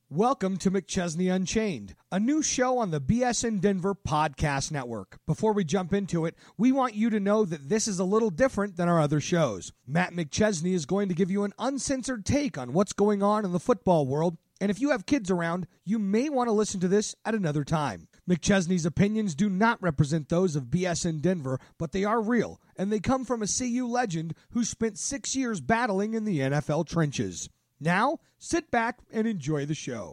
Welcome to McChesney Unchained, a new show on the BSN Denver Podcast Network. Before we jump into it, we want you to know that this is a little different than our other shows. Matt McChesney is going to give you an uncensored take on what's going on in the football world, and if you have kids around, you may want to listen to this at another time. McChesney's opinions do not represent those of BSN Denver, but they are real, and they come from a CU legend who spent 6 years battling in the NFL trenches. Now, sit back and enjoy the show.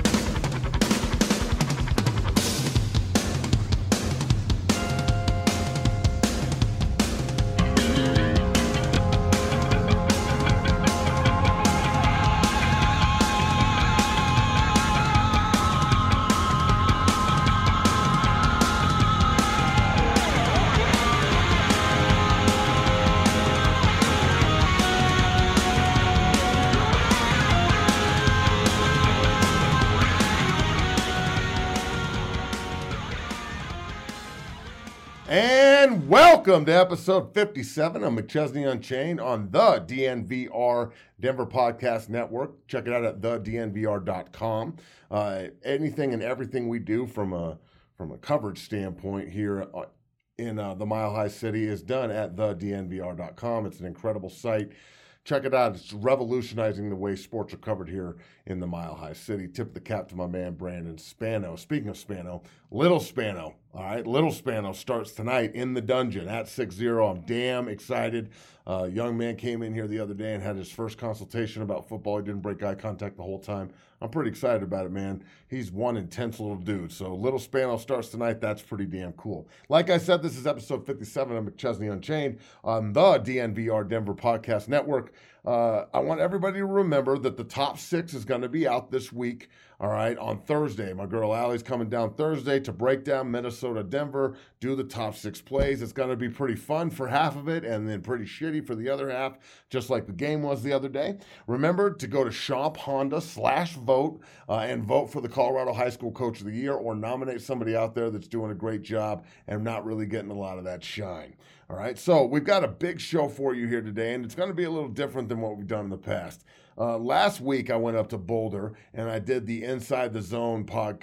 And welcome to episode 57 of McChesney Unchained on the DNVR Denver Podcast Network. Check it out at thednvr.com. Anything and everything we do from a coverage standpoint here in the Mile High City is done at thednvr.com. It's an incredible site. Check it out. It's revolutionizing the way sports are covered here in the Mile High City. Tip the cap to my man, Brandon Spano. Speaking of Spano, Little Spano. All right, Little Spano starts tonight in the dungeon at 6-0. I'm damn excited. Young man came in here the other day and had his first consultation about football. He didn't break eye contact the whole time. I'm pretty excited about it, man. He's one intense little dude. So Little Spano starts tonight. That's pretty damn cool. Like I said, this is episode 57 of McChesney Unchained on the DNVR Denver Podcast Network. I want everybody to remember that the top six is going to be out this week, all right, on Thursday. My girl Allie's coming down Thursday to break down Minnesota, Denver, do the top six plays. It's going to be pretty fun for half of it and then pretty shitty for the other half, just like the game was the other day. Remember to go to Schomp Honda /vote and vote for the Colorado High School Coach of the Year or nominate somebody out there that's doing a great job and not really getting a lot of that shine. All right, so we've got a big show for you here today, and it's going to be a little different than what we've done in the past. Last week, I went up to Boulder, and I did the Inside Zone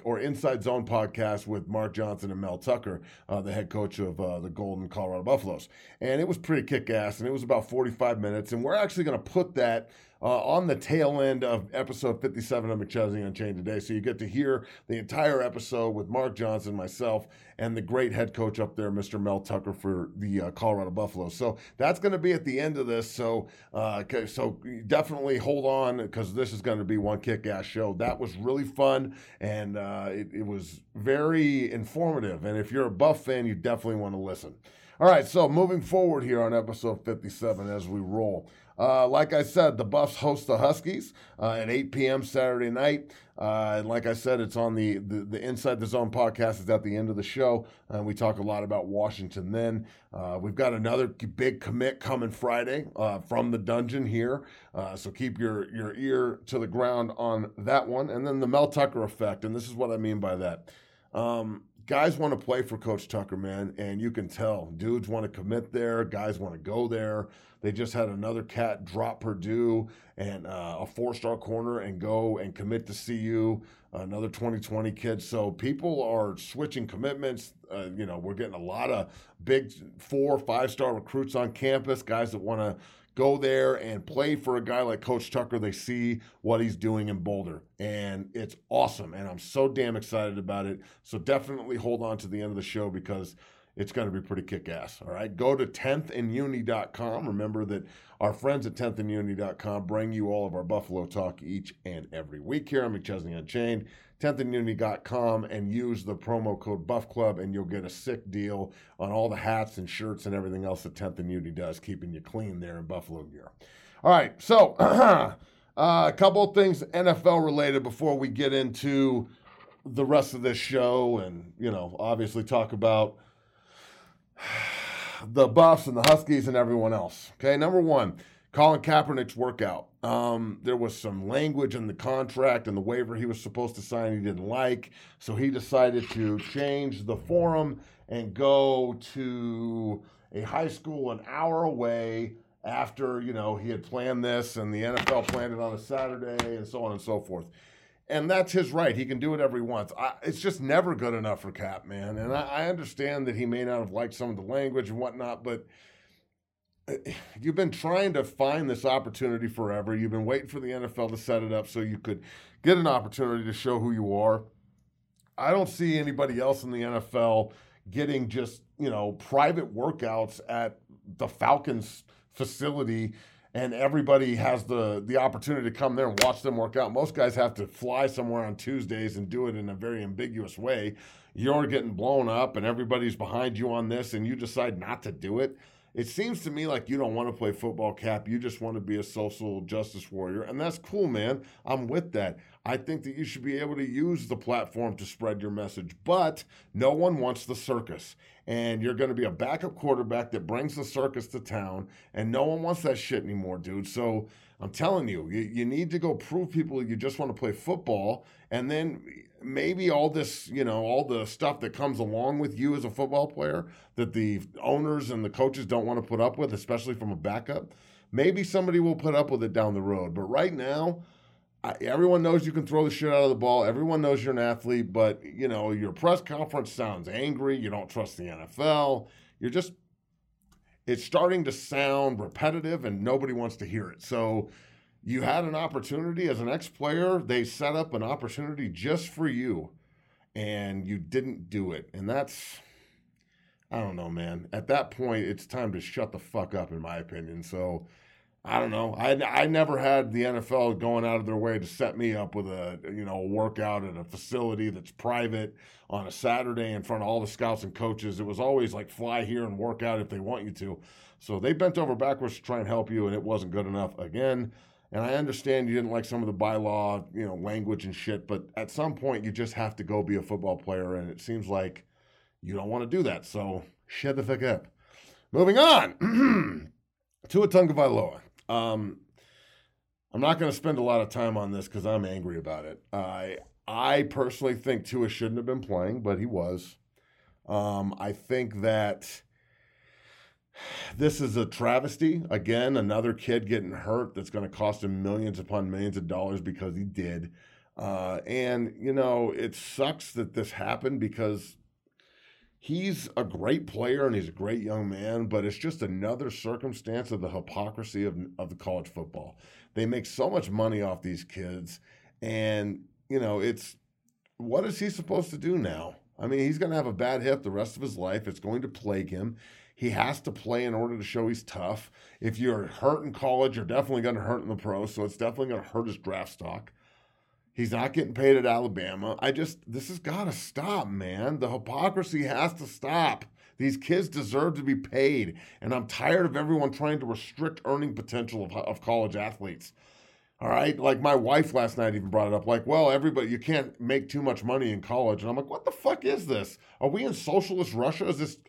podcast with Mark Johnson and Mel Tucker, the head coach of the Golden Colorado Buffaloes. And it was pretty kick-ass, and it was about 45 minutes, and we're actually going to put that on the tail end of episode 57 of McChesney Unchained today. So you get to hear the entire episode with Mark Johnson, myself, and the great head coach up there, Mr. Mel Tucker for the Colorado Buffaloes. So that's going to be at the end of this. So definitely hold on because this is going to be one kick-ass show. That was really fun, and it was very informative. And if you're a Buff fan, you definitely want to listen. All right, so moving forward here on episode 57 as we roll. Like I said, the Buffs host the Huskies at 8 p.m. Saturday night. And like I said, it's on the Inside the Zone podcast. It's at the end of the show. And we talk a lot about Washington then. We've got another big commit coming Friday from the dungeon here. So keep your ear to the ground on that one. And then the Mel Tucker effect. And this is what I mean by that. Guys want to play for Coach Tucker, man, and you can tell. Dudes want to commit there. Guys want to go there. They just had another cat drop Purdue and a 4-star corner and go and commit to CU, another 2020 kid. So people are switching commitments. We're getting a lot of big 4 or 5-star recruits on campus, guys that want to go there and play for a guy like Coach Tucker. They see what he's doing in Boulder, and it's awesome, and I'm so damn excited about it. So definitely hold on to the end of the show because it's going to be pretty kick-ass, all right? Go to 10thanduni.com. Remember that our friends at 10thanduni.com bring you all of our Buffalo talk each and every week here on McChesney Unchained. 10thanduni.com and use the promo code Buff Club, and you'll get a sick deal on all the hats and shirts and everything else that 10th and Uni does, keeping you clean there in Buffalo gear. All right, so a couple of things NFL related before we get into the rest of this show and, obviously talk about the Buffs and the Huskies and everyone else. Okay, number one, Colin Kaepernick's workout. There was some language in the contract and the waiver he was supposed to sign he didn't like, so he decided to change the forum and go to a high school an hour away after, he had planned this and the NFL planned it on a Saturday and so on and so forth. And that's his right. He can do whatever he wants. It's just never good enough for Cap, man. And I understand that he may not have liked some of the language and whatnot, but you've been trying to find this opportunity forever. You've been waiting for the NFL to set it up so you could get an opportunity to show who you are. I don't see anybody else in the NFL getting just, private workouts at the Falcons facility, and everybody has the opportunity to come there and watch them work out. Most guys have to fly somewhere on Tuesdays and do it in a very ambiguous way. You're getting blown up and everybody's behind you on this and you decide not to do it. It seems to me like you don't want to play football, Cap. You just want to be a social justice warrior. And that's cool, man. I'm with that. I think that you should be able to use the platform to spread your message. But no one wants the circus. And you're going to be a backup quarterback that brings the circus to town. And no one wants that shit anymore, dude. So I'm telling you, you need to go prove people you just want to play football. And then maybe all this, all the stuff that comes along with you as a football player that the owners and the coaches don't want to put up with, especially from a backup, maybe somebody will put up with it down the road. But right now, everyone knows you can throw the shit out of the ball. Everyone knows you're an athlete, but, your press conference sounds angry. You don't trust the NFL. It's starting to sound repetitive and nobody wants to hear it. So you had an opportunity as an ex-player. They set up an opportunity just for you, and you didn't do it. And that's, I don't know, man. At that point, it's time to shut the fuck up, in my opinion. So I don't know. I never had the NFL going out of their way to set me up with a workout at a facility that's private on a Saturday in front of all the scouts and coaches. It was always like fly here and work out if they want you to. So they bent over backwards to try and help you, and it wasn't good enough again. And I understand you didn't like some of the bylaw, language and shit, but at some point you just have to go be a football player, and it seems like you don't want to do that. So shut the fuck up. Moving on. Tua Tagovailoa. I'm not going to spend a lot of time on this because I'm angry about it. I personally think Tua shouldn't have been playing, but he was. I think that this is a travesty. Again, another kid getting hurt that's going to cost him millions upon millions of dollars because he did. And it sucks that this happened because he's a great player and he's a great young man, but it's just another circumstance of the hypocrisy of the college football. They make so much money off these kids, and, it's what is he supposed to do now? I mean, he's going to have a bad hip the rest of his life. It's going to plague him. He has to play in order to show he's tough. If you're hurt in college, you're definitely going to hurt in the pros, so it's definitely going to hurt his draft stock. He's not getting paid at Alabama. This has got to stop, man. The hypocrisy has to stop. These kids deserve to be paid, and I'm tired of everyone trying to restrict earning potential of college athletes. All right? Like my wife last night even brought it up. Like, well, everybody, you can't make too much money in college. And I'm like, what the fuck is this? Are we in socialist Russia? Is this,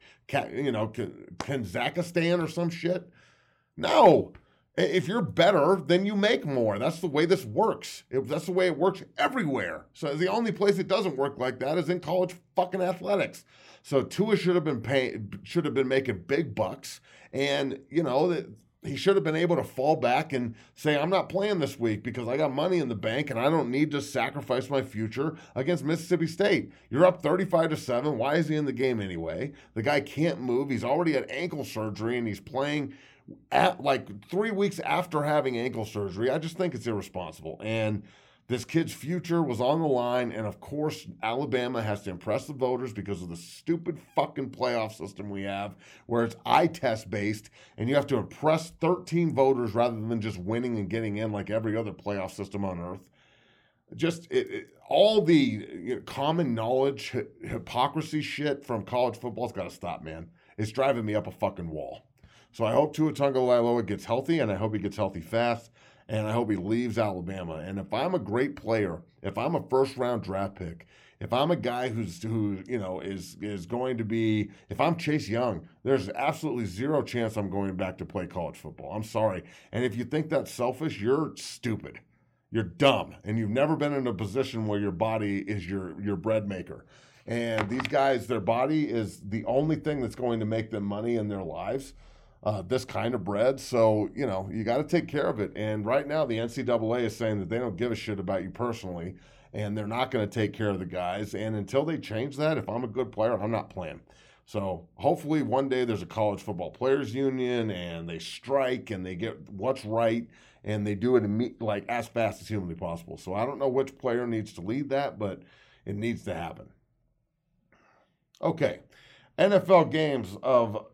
Kazakhstan or some shit? No. If you're better, then you make more. That's the way this works. That's the way it works everywhere. So the only place it doesn't work like that is in college fucking athletics. So Tua should have been making big bucks, and he should have been able to fall back and say, I'm not playing this week because I got money in the bank and I don't need to sacrifice my future against Mississippi State. You're up 35-7. Why is he in the game anyway? The guy can't move. He's already had ankle surgery and he's playing at like 3 weeks after having ankle surgery. I just think it's irresponsible. And this kid's future was on the line. And of course, Alabama has to impress the voters because of the stupid fucking playoff system we have where it's eye test based and you have to impress 13 voters rather than just winning and getting in like every other playoff system on earth. Just all the common knowledge, hypocrisy shit from college football's got to stop, man. It's driving me up a fucking wall. So I hope Tua Tagovailoa gets healthy, and I hope he gets healthy fast, and I hope he leaves Alabama. And if I'm a great player, if I'm a first-round draft pick, if I'm a guy who is going to be, if I'm Chase Young, there's absolutely zero chance I'm going back to play college football. I'm sorry. And if you think that's selfish, you're stupid. You're dumb, and you've never been in a position where your body is your bread maker. And these guys, their body is the only thing that's going to make them money in their lives. This kind of bread. So, you got to take care of it. And right now the NCAA is saying that they don't give a shit about you personally. and they're not going to take care of the guys. And until they change that, if I'm a good player, I'm not playing. So hopefully one day there's a college football players union and they strike and they get what's right and they do it like as fast as humanly possible. So I don't know which player needs to lead that, but it needs to happen. Okay, NFL games of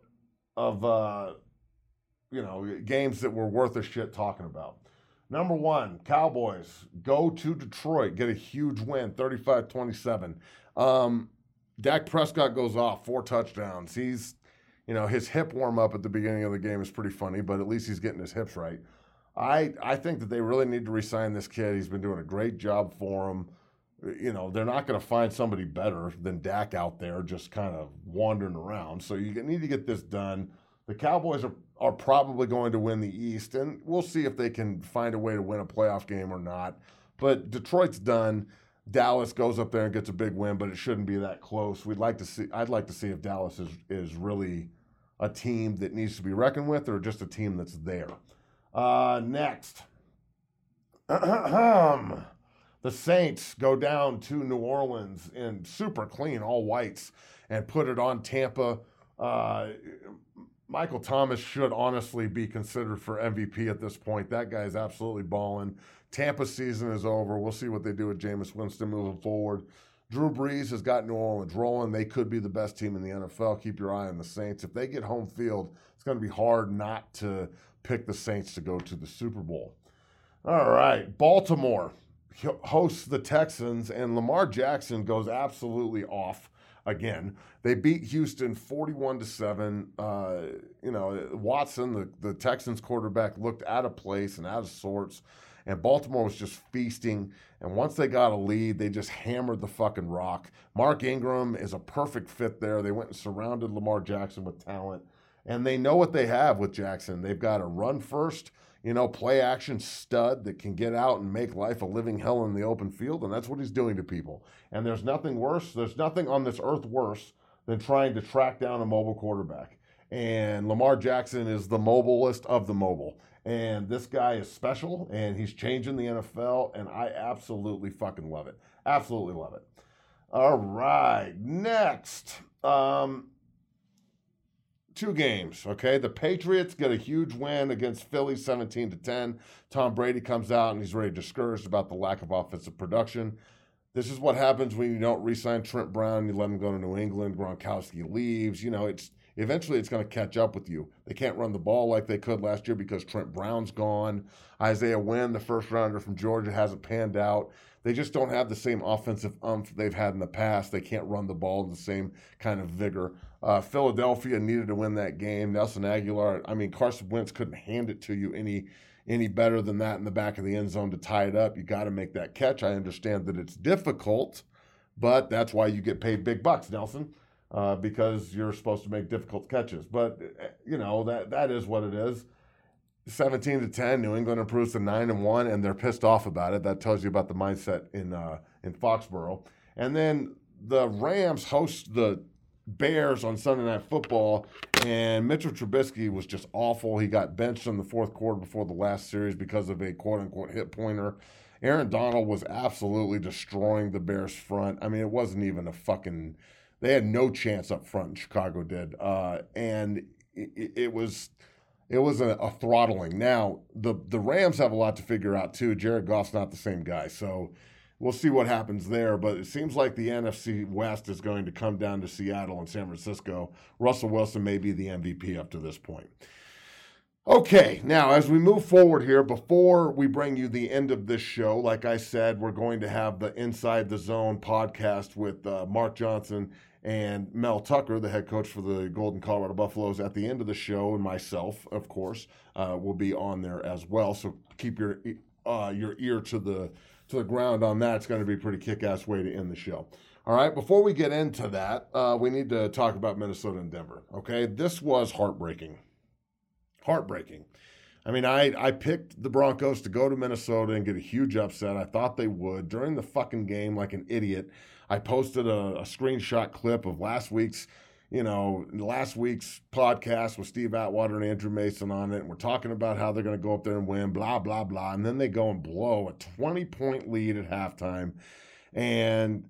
games that were worth a shit talking about. Number one, Cowboys go to Detroit, get a huge win, 35-27. Dak Prescott goes off, 4 touchdowns. He's, his hip warm-up at the beginning of the game is pretty funny, but at least he's getting his hips right. I think that they really need to re-sign this kid. He's been doing a great job for him. They're not going to find somebody better than Dak out there just kind of wandering around. So you need to get this done. The Cowboys are probably going to win the East, and we'll see if they can find a way to win a playoff game or not. But Detroit's done. Dallas goes up there and gets a big win, but it shouldn't be that close. I'd like to see if Dallas is really a team that needs to be reckoned with or just a team that's there. Next. The Saints go down to New Orleans in super clean all whites and put it on Tampa. Michael Thomas should honestly be considered for MVP at this point. That guy is absolutely balling. Tampa season is over. We'll see what they do with Jameis Winston moving forward. Drew Brees has got New Orleans rolling. They could be the best team in the NFL. Keep your eye on the Saints. If they get home field, it's going to be hard not to pick the Saints to go to the Super Bowl. All right, Baltimore hosts the Texans, and Lamar Jackson goes absolutely off again. They beat Houston 41-7. Watson, the Texans quarterback, looked out of place and out of sorts. And Baltimore was just feasting. And once they got a lead, they just hammered the fucking rock. Mark Ingram is a perfect fit there. They went and surrounded Lamar Jackson with talent. And they know what they have with Jackson. They've got a run first, play action stud that can get out and make life a living hell in the open field. And that's what he's doing to people. And there's nothing worse. There's nothing on this earth worse than trying to track down a mobile quarterback. And Lamar Jackson is the mobilest of the mobile. And this guy is special, and he's changing the NFL, and I absolutely fucking love it. Absolutely love it. All right, next. 2 games, okay? The Patriots get a huge win against Philly, 17-10. Tom Brady comes out, and he's very discouraged about the lack of offensive production. This is what happens when you don't re-sign Trent Brown, you let him go to New England, Gronkowski leaves. Eventually it's going to catch up with you. They can't run the ball like they could last year because Trent Brown's gone. Isaiah Wynn, the first rounder from Georgia, hasn't panned out. They just don't have the same offensive oomph they've had in the past. They can't run the ball in the same kind of vigor. Philadelphia needed to win that game. Nelson Aguilar, Carson Wentz couldn't hand it to you any better than that in the back of the end zone to tie it up. You got to make that catch. I understand that it's difficult, but that's why you get paid big bucks, Nelson. Because you're supposed to make difficult catches. But, that is what it is. 17-10, New England improves to 9-1, and they're pissed off about it. That tells you about the mindset in Foxborough. And then the Rams host the Bears on Sunday Night Football, and Mitchell Trubisky was just awful. He got benched in the fourth quarter before the last series because of a quote-unquote hit pointer. Aaron Donald was absolutely destroying the Bears' front. It wasn't even a fucking... They had no chance up front, Chicago did. And it was a throttling. Now, the Rams have a lot to figure out, too. Jared Goff's not the same guy. So we'll see what happens there. But it seems like the NFC West is going to come down to Seattle and San Francisco. Russell Wilson may be the MVP up to this point. Okay, now as we move forward here, before we bring you the end of this show, like I said, we're going to have the Inside the Zone podcast with Mark Johnson and Mel Tucker, the head coach for the Golden Colorado Buffaloes, at the end of the show, and myself, of course, will be on there as well. So keep your ear to the ground on that. It's going to be a pretty kick-ass way to end the show. All right, before we get into that, we need to talk about Minnesota and Denver. Okay, this was heartbreaking. Heartbreaking. I picked the Broncos to go to Minnesota and get a huge upset. I thought they would. During the fucking game, like an idiot, I posted a screenshot clip of last week's podcast with Steve Atwater and Andrew Mason on it, and we're talking about how they're going to go up there and win, blah, blah, blah, and then they go and blow a 20-point lead at halftime. And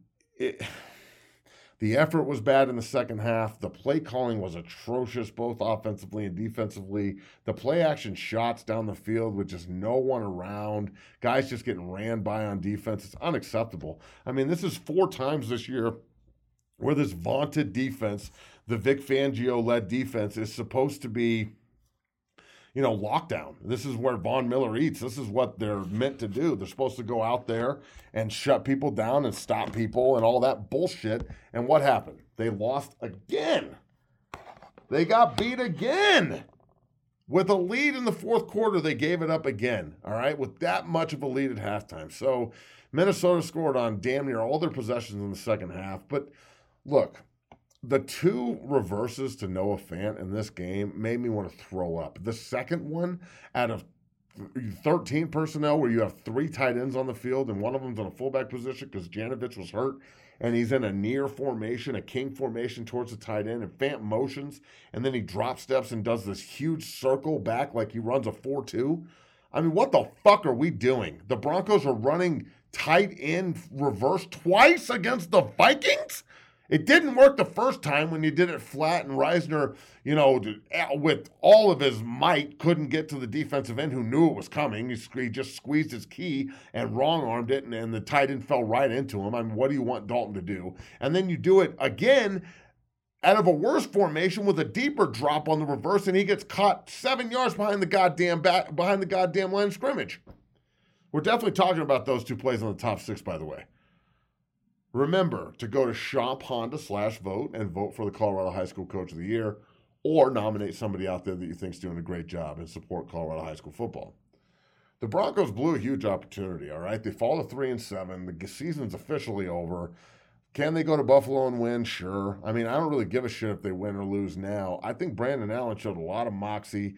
the effort was bad in the second half. The play calling was atrocious, both offensively and defensively. The play action shots down the field with just no one around, guys just getting ran by on defense, it's unacceptable. I mean, this is 4 times this year where this vaunted defense, the Vic Fangio-led defense, is supposed to be, lockdown. This is where Von Miller eats. This is what they're meant to do. They're supposed to go out there and shut people down and stop people and all that bullshit. And what happened? They lost again. They got beat again. With a lead in the fourth quarter, they gave it up again, all right, with that much of a lead at halftime. So Minnesota scored on damn near all their possessions in the second half. But look, the 2 reverses to Noah Fant in this game made me want to throw up. The second one, out of 13 personnel where you have 3 tight ends on the field and one of them's in a fullback position because Janovich was hurt, and he's in a near formation, a king formation towards the tight end, and Fant motions, and then he drop steps and does this huge circle back like he runs a 4-2. I mean, what the fuck are we doing? The Broncos are running tight end reverse twice against the Vikings? It didn't work the first time when you did it flat and Reisner, with all of his might, couldn't get to the defensive end who knew it was coming. He just squeezed his key and wrong-armed it, and the tight end fell right into him. I mean, what do you want Dalton to do? And then you do it again out of a worse formation with a deeper drop on the reverse, and he gets caught 7 yards behind the goddamn line of scrimmage. We're definitely talking about those 2 plays on the top 6, by the way. Remember to go to Shop Honda/vote and vote for the Colorado High School Coach of the Year, or nominate somebody out there that you think is doing a great job and support Colorado high school football. The Broncos blew a huge opportunity, all right? They fall to 3-7. The season's officially over. Can they go to Buffalo and win? Sure. I mean, I don't really give a shit if they win or lose now. I think Brandon Allen showed a lot of moxie.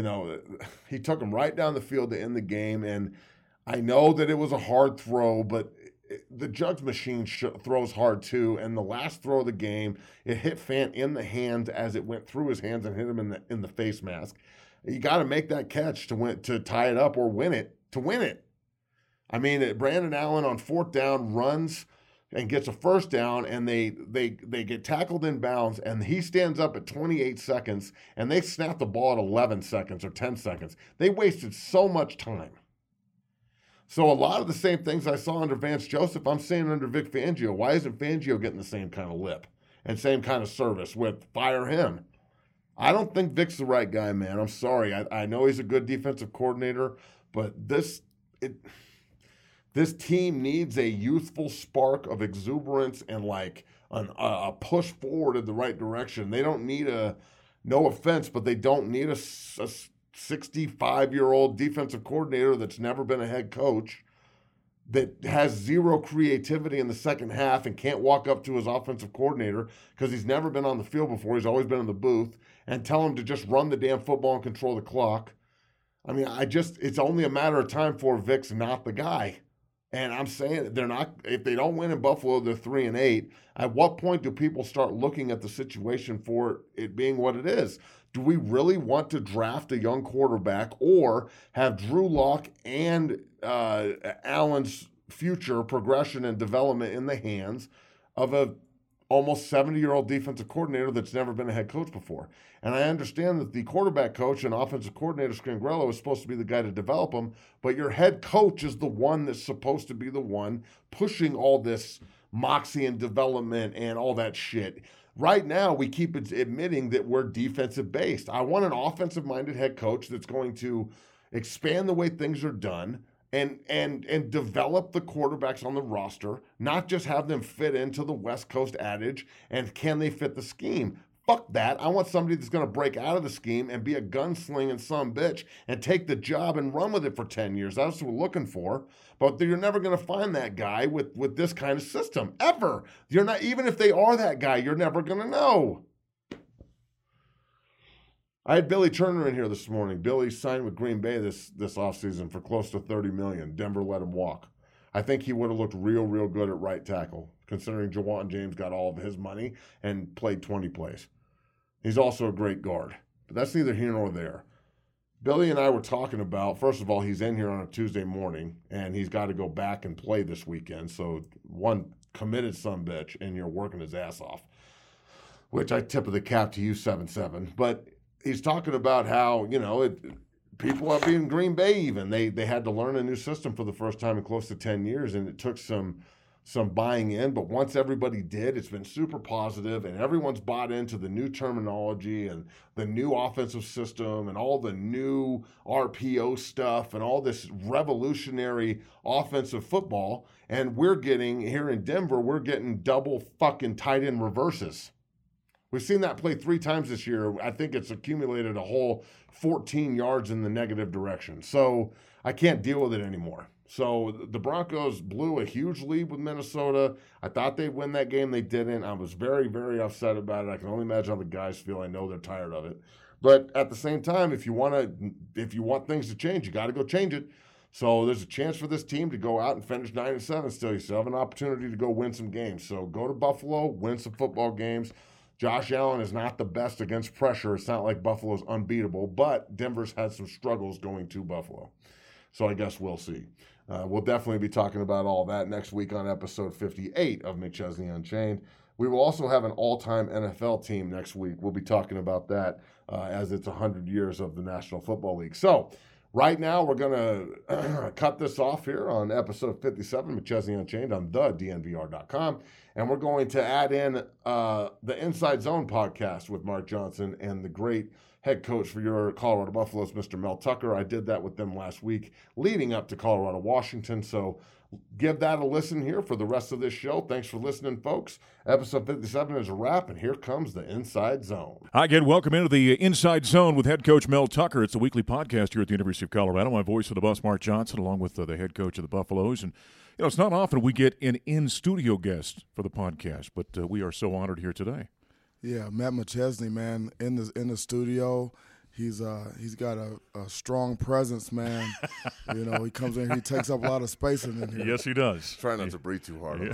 He took them right down the field to end the game, and I know that it was a hard throw, but the Jugs machine throws hard too, and the last throw of the game, it hit Fant in the hands as it went through his hands and hit him in the face mask. You got to make that catch to tie it up or win it, to win it. I mean, Brandon Allen on 4th down runs and gets a first down, and they get tackled in bounds, and he stands up at 28 seconds, and they snap the ball at 11 seconds or 10 seconds. They wasted so much time. So a lot of the same things I saw under Vance Joseph, I'm seeing under Vic Fangio. Why isn't Fangio getting the same kind of lip and same kind of service with fire him? I don't think Vic's the right guy, man. I'm sorry. I know he's a good defensive coordinator, but this team needs a youthful spark of exuberance and like a push forward in the right direction. They don't need no offense, but they don't need a 65-year-old defensive coordinator that's never been a head coach, that has zero creativity in the second half and can't walk up to his offensive coordinator because he's never been on the field before. He's always been in the booth, and tell him to just run the damn football and control the clock. I mean, it's only a matter of time before Vic's not the guy. And I'm saying they're not. If they don't win in Buffalo, they're 3-8. At what point do people start looking at the situation for it being what it is? Do we really want to draft a young quarterback or have Drew Lock and Allen's future progression and development in the hands of a almost 70-year-old defensive coordinator that's never been a head coach before? And I understand that the quarterback coach and offensive coordinator, Scangrello, is supposed to be the guy to develop them, but your head coach is the one that's supposed to be the one pushing all this moxie and development and all that shit. Right now, we keep admitting that we're defensive-based. I want an offensive-minded head coach that's going to expand the way things are done and develop the quarterbacks on the roster, not just have them fit into the West Coast adage and can they fit the scheme. Fuck that. I want somebody that's going to break out of the scheme and be a gunslinging sumbitch and take the job and run with it for 10 years. That's what we're looking for. But you're never going to find that guy with this kind of system, ever. You're not, even if they are that guy, you're never going to know. I had Billy Turner in here this morning. Billy signed with Green Bay this offseason for close to $30 million. Denver let him walk. I think he would have looked real good at right tackle, considering Jawan James got all of his money and played 20 plays. He's also a great guard. But that's neither here nor there. Billy and I were talking about, first of all, he's in here on a Tuesday morning, and he's got to go back and play this weekend. So one committed sumbitch, and you're working his ass off, which I tip of the cap to you, 7-7. But he's talking about how, people up in Green Bay even, they had to learn a new system for the first time in close to 10 years, and it took some buying in, but once everybody did, it's been super positive, and everyone's bought into the new terminology and the new offensive system and all the new RPO stuff and all this revolutionary offensive football. And we're getting, here in Denver, we're getting double fucking tight end reverses. We've seen that play 3 times this year. I think it's accumulated a whole 14 yards in the negative direction. So I can't deal with it anymore. So the Broncos blew a huge lead with Minnesota. I thought they'd win that game. They didn't. I was very, very upset about it. I can only imagine how the guys feel. I know they're tired of it. But at the same time, if you want things to change, you got to go change it. So there's a chance for this team to go out and finish 9-7 still. You still have an opportunity to go win some games. So go to Buffalo, win some football games. Josh Allen is not the best against pressure. It's not like Buffalo's unbeatable, but Denver's had some struggles going to Buffalo. So I guess we'll see. We'll definitely be talking about all that next week on episode 58 of McChesney Unchained. We will also have an all-time NFL team next week. We'll be talking about that as it's 100 years of the National Football League. So right now we're going to cut this off here on episode 57, McChesney Unchained on thednvr.com. And we're going to add in the Inside Zone podcast with Mark Johnson and the great head coach for your Colorado Buffaloes, Mr. Mel Tucker. I did that with them last week leading up to Colorado, Washington. So give that a listen here for the rest of this show. Thanks for listening, folks. Episode 57 is a wrap, and here comes the Inside Zone. Hi, again. Welcome into the Inside Zone with head coach Mel Tucker. It's a weekly podcast here at the University of Colorado. My voice for the bus, Mark Johnson, along with the head coach of the Buffaloes. And, it's not often we get an in-studio guest for the podcast, but we are so honored here today. Yeah, Matt McChesney, man, in the studio. He's got a strong presence, man. He comes in, he takes up a lot of space in here. Yes, he does. Try not to breathe too hard on the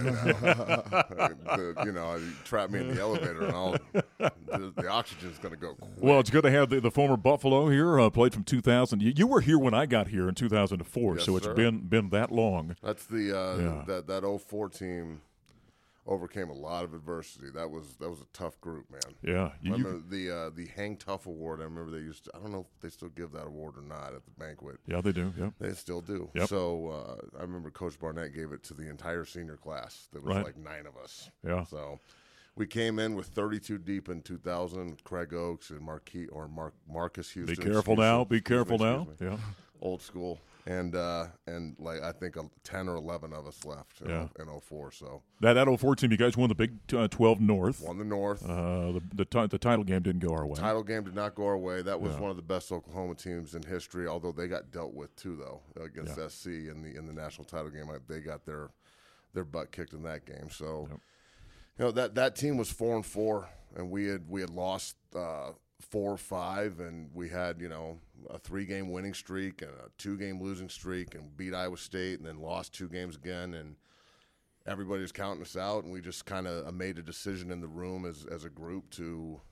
mic right now. You trap me in the elevator, and the oxygen's going to go quick. Well, it's good to have the former Buffalo here. Played from 2000. You were here when I got here in 2004, yes, so it's sir. been that long. That's that 04 team. Overcame a lot of adversity. That was a tough group, man. Yeah. I remember the Hang Tough Award. I remember they used to, I don't know if they still give that award or not at the banquet. Yeah, they do. Yep. They still do. Yep. So I remember Coach Barnett gave it to the entire senior class. There was like 9 of us. Yeah. So we came in with 32 deep in 2000. Craig Oaks and Marcus Houston. Be careful now. Be careful now. Yeah. Old school. And like I think 10 or 11 of us left in 04. So that 04 team, you guys won the Big 12 North. Won the North. The title game didn't go our way. Title game did not go our way. That was one of the best Oklahoma teams in history. Although they got dealt with too, though, against SC in the national title game. They got their butt kicked in that game. So that team was 4-4, and we had lost 4 or 5, and we had a 3-game winning streak and a 2-game losing streak, and beat Iowa State, and then lost 2 games again, and everybody was counting us out, and we just kind of made a decision in the room as a group to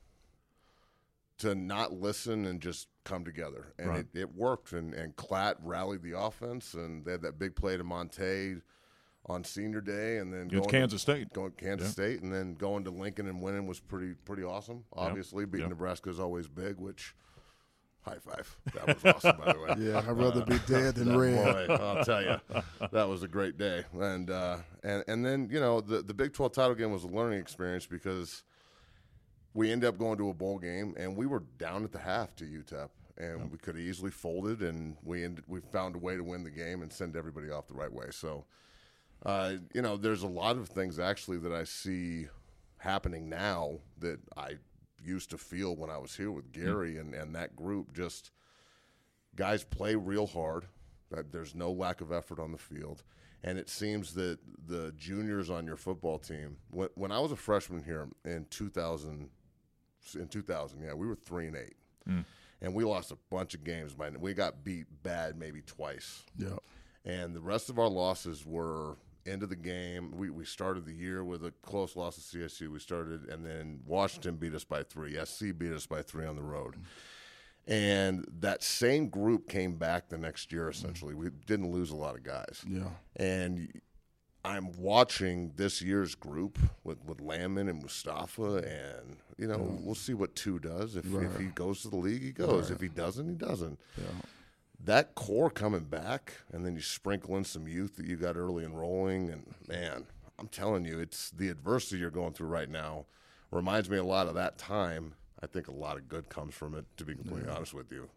not listen and just come together, and it worked, and Klatt rallied the offense, and they had that big play to Monte on senior day, and then going to Kansas State, and then going to Lincoln and winning was pretty awesome. Obviously, beating Nebraska is always big, which high five. That was awesome, by the way. Yeah, I'd rather be dead than red. Boy, I'll tell you, that was a great day. And then the Big 12 title game was a learning experience because we ended up going to a bowl game, and we were down at the half to UTEP. And we could have easily folded, and we found a way to win the game and send everybody off the right way. So. There's a lot of things actually that I see happening now that I used to feel when I was here with Gary and that group. Just guys play real hard. That there's no lack of effort on the field, and it seems that the juniors on your football team. When I was a freshman here in 2000, we were 3-8, and we lost a bunch of games. We got beat bad maybe twice. Yeah, and the rest of our losses were. Into the game. We started the year with a close loss to CSU. And then Washington beat us by 3. SC beat us by 3 on the road. And that same group came back the next year, essentially. We didn't lose a lot of guys. Yeah. And I'm watching this year's group with Landman and Mustafa, and, we'll see what 2 does. If he goes to the league, he goes. Right. If he doesn't, he doesn't. Yeah. That core coming back, and then you sprinkle in some youth that you got early enrolling, and, man, I'm telling you, it's the adversity you're going through right now reminds me a lot of that time. I think a lot of good comes from it, to be completely honest with you.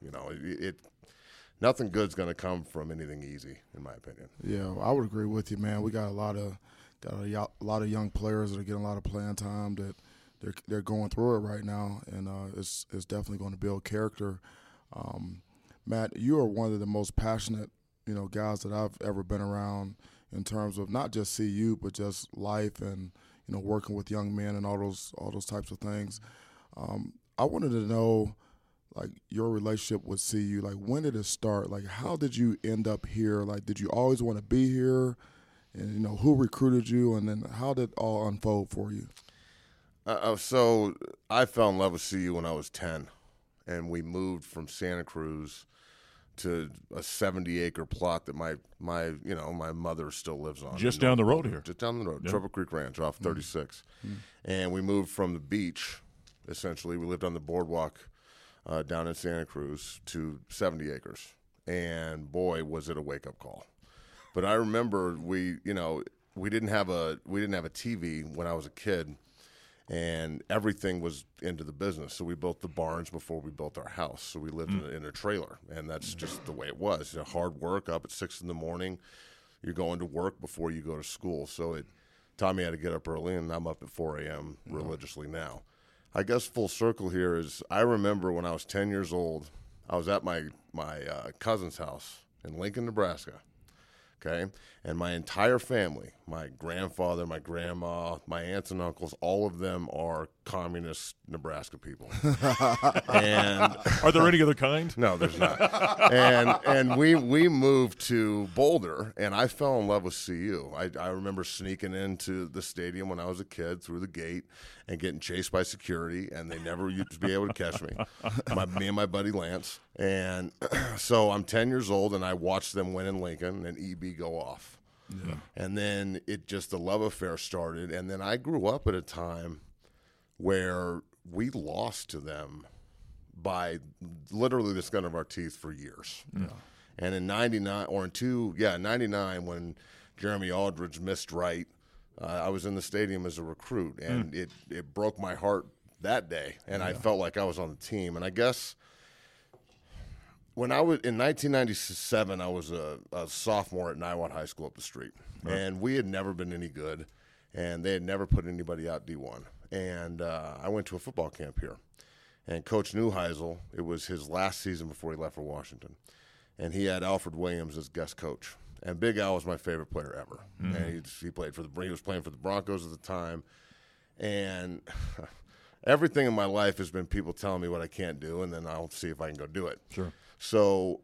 Nothing good's going to come from anything easy, in my opinion. Yeah, I would agree with you, man. We got a lot of young players that are getting a lot of playing time that they're going through it right now, and it's definitely going to build character. Matt, you are one of the most passionate, guys that I've ever been around in terms of not just CU, but just life and working with young men and all those types of things. I wanted to know, like, your relationship with CU. Like, when did it start? Like, how did you end up here? Like, did you always want to be here? And, who recruited you? And then how did it all unfold for you? So I fell in love with CU when I was 10, and we moved from Santa Cruz to a 70-acre plot that my mother still lives on. Just down the road here. Just down the road, Triple Creek Ranch off 36. Mm-hmm. And we moved from the beach, essentially. We lived on the boardwalk down in Santa Cruz to 70 acres. And, boy, was it a wake-up call. But I remember we didn't have a TV when I was a kid, and everything was into the business. So we built the barns before we built our house. So we lived in a trailer, and that's just the way it was. Hard work, up at 6 in the morning. You're going to work before you go to school. So it taught me how to get up early, and I'm up at 4 a.m. religiously now. I guess full circle here is I remember when I was 10 years old, I was at my cousin's house in Lincoln, Nebraska. Okay, and my entire family, my grandfather, my grandma, my aunts and uncles, all of them are communist Nebraska people. And are there any other kind? No, there's not. And we moved to Boulder, and I fell in love with CU. I remember sneaking into the stadium when I was a kid through the gate and getting chased by security, and they never used to be able to catch me. Me and my buddy Lance. And so I'm 10 years old, and I watched them win in Lincoln and EB go off. Yeah. And then the love affair started. And then I grew up at a time where we lost to them by literally the skin of our teeth for years. Yeah. And in 99, when Jeremy Aldridge missed right, I was in the stadium as a recruit, and it broke my heart that day. And I felt like I was on the team. And I guess when I was in 1997, I was a sophomore at Niwot High School up the street, and we had never been any good, and they had never put anybody out D1. And I went to a football camp here, and Coach Neuheisel, it was his last season before he left for Washington, and he had Alfred Williams as guest coach. And Big Al was my favorite player ever, and he was playing for the Broncos at the time, and everything in my life has been people telling me what I can't do, and then I'll see if I can go do it. Sure. So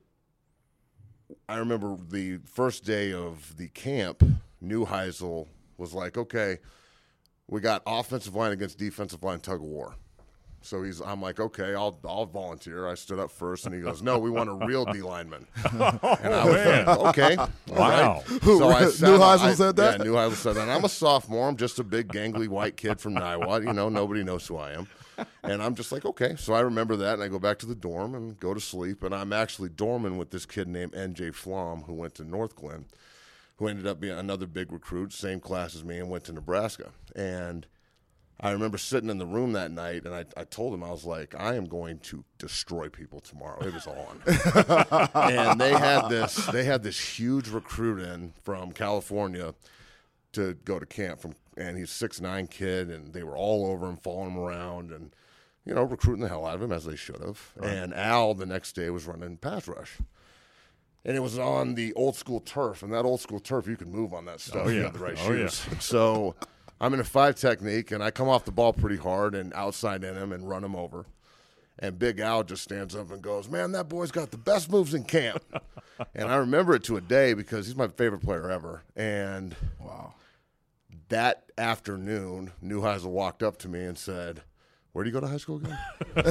I remember the first day of the camp, Neuheisel was like, okay, we got offensive line against defensive line tug of war. So I'm like, okay, I'll volunteer. I stood up first, and he goes, no, we want a real D lineman. And I was like, okay. Wow. Right. So Neuheisel said that? Yeah, Neuheisel said that. And I'm a sophomore. I'm just a big, gangly white kid from Niwot. Nobody knows who I am. And I'm just like, okay. So I remember that, and I go back to the dorm and go to sleep. And I'm actually dorming with this kid named N.J. Flom, who went to North Glen, who ended up being another big recruit, same class as me, and went to Nebraska. And I remember sitting in the room that night, and I told him, I was like, I am going to destroy people tomorrow. It was on. And they had this huge recruit in from California to go to camp, and he's a 6'9" kid, and they were all over him, following him around, and recruiting the hell out of him, as they should have. Right. And Al the next day was running pass rush. And it was on the old school turf, and that old school turf, you can move on that stuff. Oh, yeah. You have the right shoes. Yeah. So I'm in a 5 technique, and I come off the ball pretty hard and outside in him and run him over. And Big Al just stands up and goes, man, that boy's got the best moves in camp. And I remember it to a day because he's my favorite player ever. And wow, that afternoon, Neuheisel walked up to me and said, where do you go to high school again?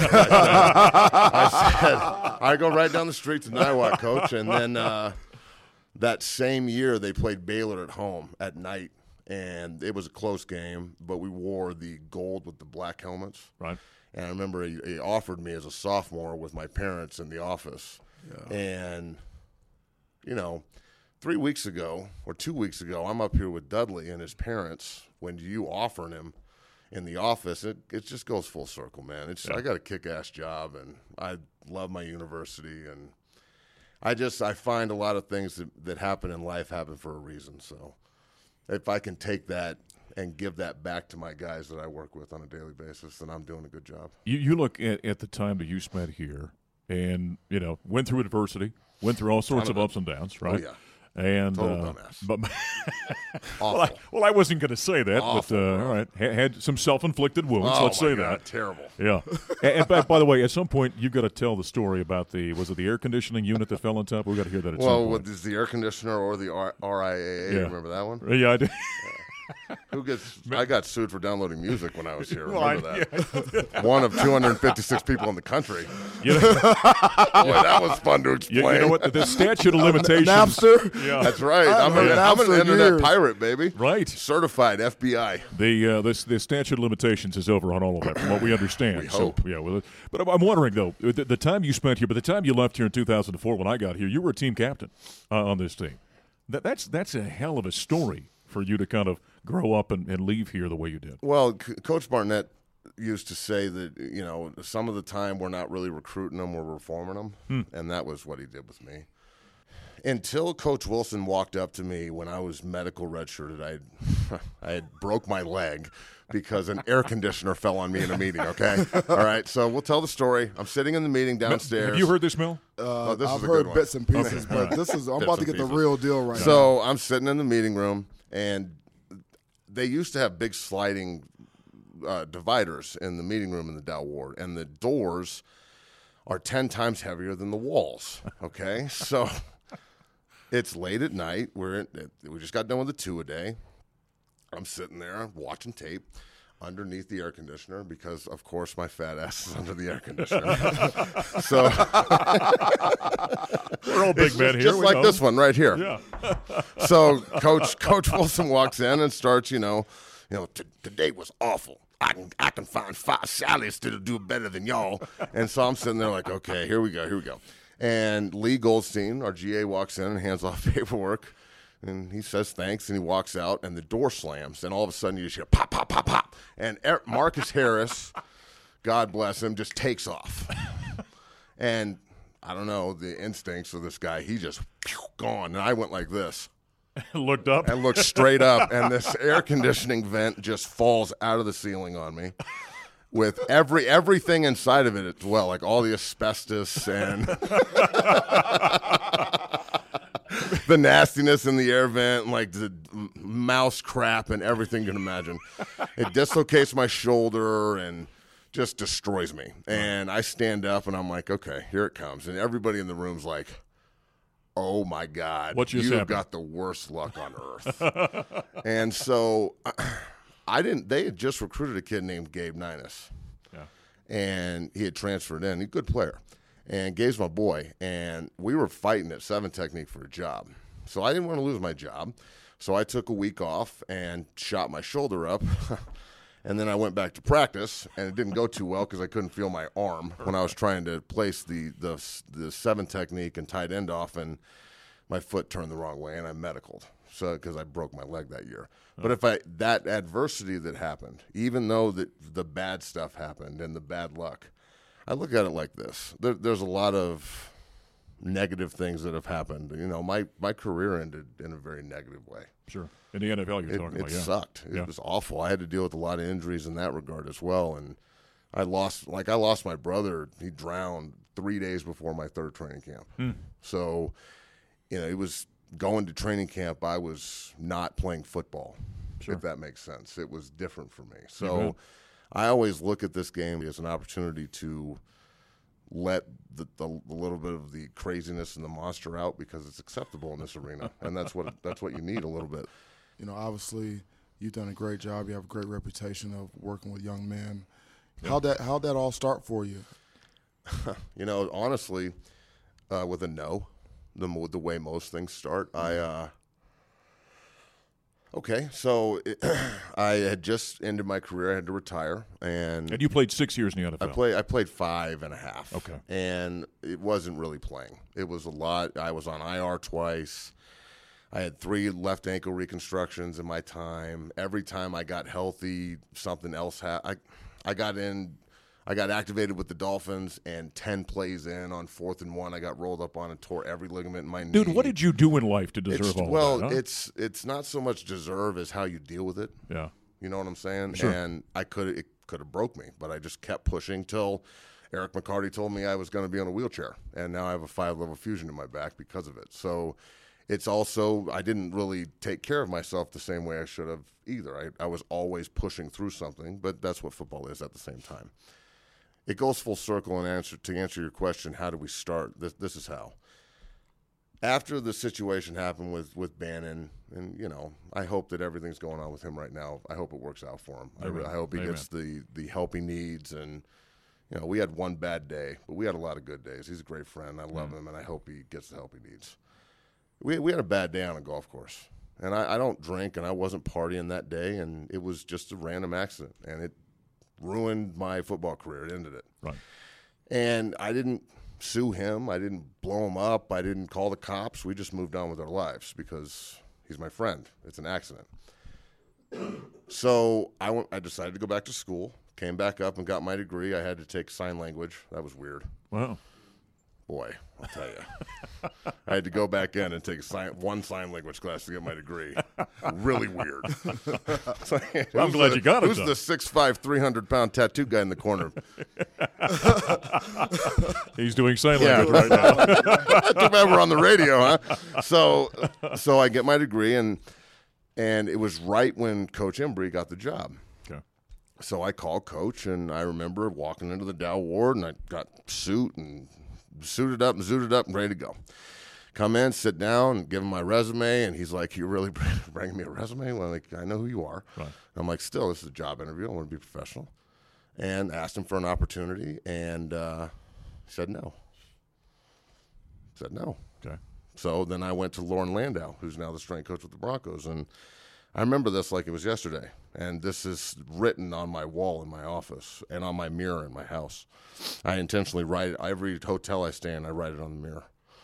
I said, I go right down the street to Niwot, coach. And then that same year, they played Baylor at home at night. And it was a close game, but we wore the gold with the black helmets. Right. And I remember he offered me as a sophomore with my parents in the office. Yeah. And, 3 weeks ago or 2 weeks ago, I'm up here with Dudley and his parents. When you offering him in the office, it just goes full circle, man. I got a kick-ass job, and I love my university. And I find a lot of things that happen in life happen for a reason. So if I can take that and give that back to my guys that I work with on a daily basis, then I'm doing a good job. You look at the time that you spent here and, went through adversity, went through all sorts of ups and downs, right? Oh, yeah. And total dumbass. But I wasn't going to say that, Awful, but all right, had some self-inflicted wounds. Oh, let's say God, that. Terrible. Yeah. And by the way, at some point you've got to tell the story about was it the air conditioning unit that fell on top? We've got to hear that at some point. Well, is the air conditioner or the RIAA? Yeah. Remember that one? Yeah, I did. I got sued for downloading music when I was here. Well, Remember that? Yeah. One of 256 people in the country. Boy, that was fun to explain. You know what? The statute of limitations. Napster? Yeah. That's right. I'm an internet pirate, baby. Right. Certified FBI. The statute of limitations is over on all of that, from what we understand. We hope. So, yeah, but I'm wondering, though, the time you spent here, but the time you left here in 2004 when I got here, you were a team captain on this team. That's a hell of a story for you to kind of grow up and leave here the way you did. Well, Coach Barnett used to say that, some of the time we're not really recruiting them, we're reforming them, and that was what he did with me. Until Coach Wilson walked up to me when I was medical redshirted, I had broke my leg because an air conditioner fell on me in a meeting, okay? All right, so we'll tell the story. I'm sitting in the meeting downstairs. Have you heard this, Mel? I've heard bits and pieces, but I'm about to get the real deal right now. So I'm sitting in the meeting room, and they used to have big sliding dividers in the meeting room in the Dow Ward, and the doors are 10 times heavier than the walls, okay? So it's late at night. We just got done with a 2-a-day. I'm sitting there watching tape underneath the air conditioner because, of course, my fat ass is under the air conditioner. So we're all big men here. Just like this one right here. Yeah. So Coach Wilson walks in and starts, today was awful. I can find 5 Sallies to do better than y'all. And so I'm sitting there like, okay, here we go. And Lee Goldstein, our GA, walks in and hands off paperwork. And he says thanks, and he walks out, and the door slams. And all of a sudden, you just hear pop, pop, pop, pop. And Marcus Harris, God bless him, just takes off. And I don't know, the instincts of this guy, he just gone. And I went like this. Looked up. And looked straight up, and this air conditioning vent just falls out of the ceiling on me. With everything inside of it as well, like all the asbestos and the nastiness in the air vent, and like the mouse crap and everything you can imagine. It dislocates my shoulder and just destroys me. And I stand up and I'm like, okay, here it comes. And everybody in the room's like, oh my God, you've got the worst luck on earth. And so they had just recruited a kid named Gabe Ninus. Yeah. And he had transferred in. He's a good player. And Gabe's my boy. And we were fighting at 7 Technique for a job. So I didn't want to lose my job. So I took a week off and shot my shoulder up. And then I went back to practice, and it didn't go too well because I couldn't feel my arm when I was trying to place the 7 Technique and tight end off, and my foot turned the wrong way, and I medicaled. So because I broke my leg that year. But that adversity that happened, even though the bad stuff happened and the bad luck, I look at it like this. There's a lot of negative things that have happened. My career ended in a very negative way. Sure. In the NFL you're talking about, It sucked. It was awful. I had to deal with a lot of injuries in that regard as well. And I lost my brother. He drowned 3 days before my 3rd training camp. So, it was going to training camp. I was not playing football, if that makes sense. It was different for me. So I always look at this game as an opportunity to let the little bit of the craziness and the monster out because it's acceptable in this arena, and that's what you need a little bit. Obviously, you've done a great job. You have a great reputation of working with young men. How'd that all start for you? Honestly, with a no, the way most things start, I had just ended my career. I had to retire, And you played 6 years in the NFL. I played 5.5. Okay. And it wasn't really playing. It was a lot. I was on IR twice. I had 3 left ankle reconstructions in my time. Every time I got healthy, something else happened. I got activated with the Dolphins, and 10 plays in on 4th and 1, I got rolled up on and tore every ligament in my knee. Dude, what did you do in life to deserve all that? Well, it's not so much deserve as how you deal with it. Yeah. You know what I'm saying? Sure. And it could have broke me, but I just kept pushing till Eric McCarty told me I was going to be on a wheelchair, and now I have a 5-level fusion in my back because of it. So it's also, I didn't really take care of myself the same way I should have either. I was always pushing through something, but that's what football is at the same time. It goes full circle, and to answer your question, how do we start? This is how. After the situation happened with Bannon, and I hope that everything's going on with him right now. I hope it works out for him. I hope he gets the help he needs. And we had one bad day, but we had a lot of good days. He's a great friend. I love him, and I hope he gets the help he needs. We had a bad day on a golf course, and I don't drink, and I wasn't partying that day, and it was just a random accident, and it ruined my football career. It ended it. Right. And I didn't sue him. I didn't blow him up. I didn't call the cops. We just moved on with our lives because he's my friend. It's an accident. So I decided to go back to school, came back up and got my degree. I had to take sign language. That was weird. Wow. Boy, I'll tell you. I had to go back in and take one sign language class to get my degree. Really weird. I'm glad you got it. Who's the 6'5", 300-pound tattoo guy in the corner? He's doing sign language right now. Too bad we're on the radio, huh? So I get my degree, and it was right when Coach Embry got the job. Okay. So I called Coach, and I remember walking into the Dow Ward, and I got suited up and ready to go. Come in, sit down, and give him my resume, and he's like, "You really bringing me a resume?" Well, like, I know who you are. Right. I'm like, "Still, this is a job interview. I want to be professional." And asked him for an opportunity, and he said no. Okay. So then I went to Lauren Landau, who's now the strength coach with the Broncos, and I remember this like it was yesterday. And this is written on my wall in my office and on my mirror in my house. I intentionally write it. Every hotel I stay in, I write it on the mirror.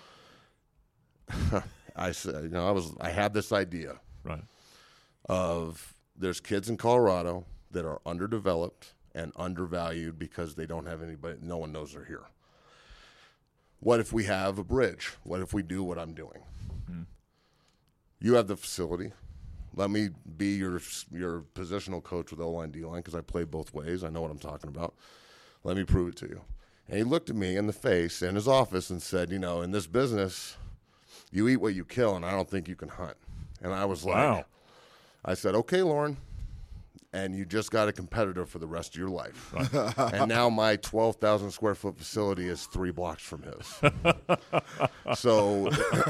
I said, I had this idea, right, of there's kids in Colorado that are underdeveloped and undervalued because they don't have anybody. No one knows they're here. What if we have a bridge? What if we do what I'm doing? You have the facility. Let me be your positional coach with O-line, D-line, because I play both ways. I know what I'm talking about. Let me prove it to you. And he looked at me in the face in his office and said, in this business, you eat what you kill, and I don't think you can hunt. And I was like, wow. I said, okay, Lauren, and you just got a competitor for the rest of your life. Right. And now my 12,000 square foot facility is 3 blocks from his. So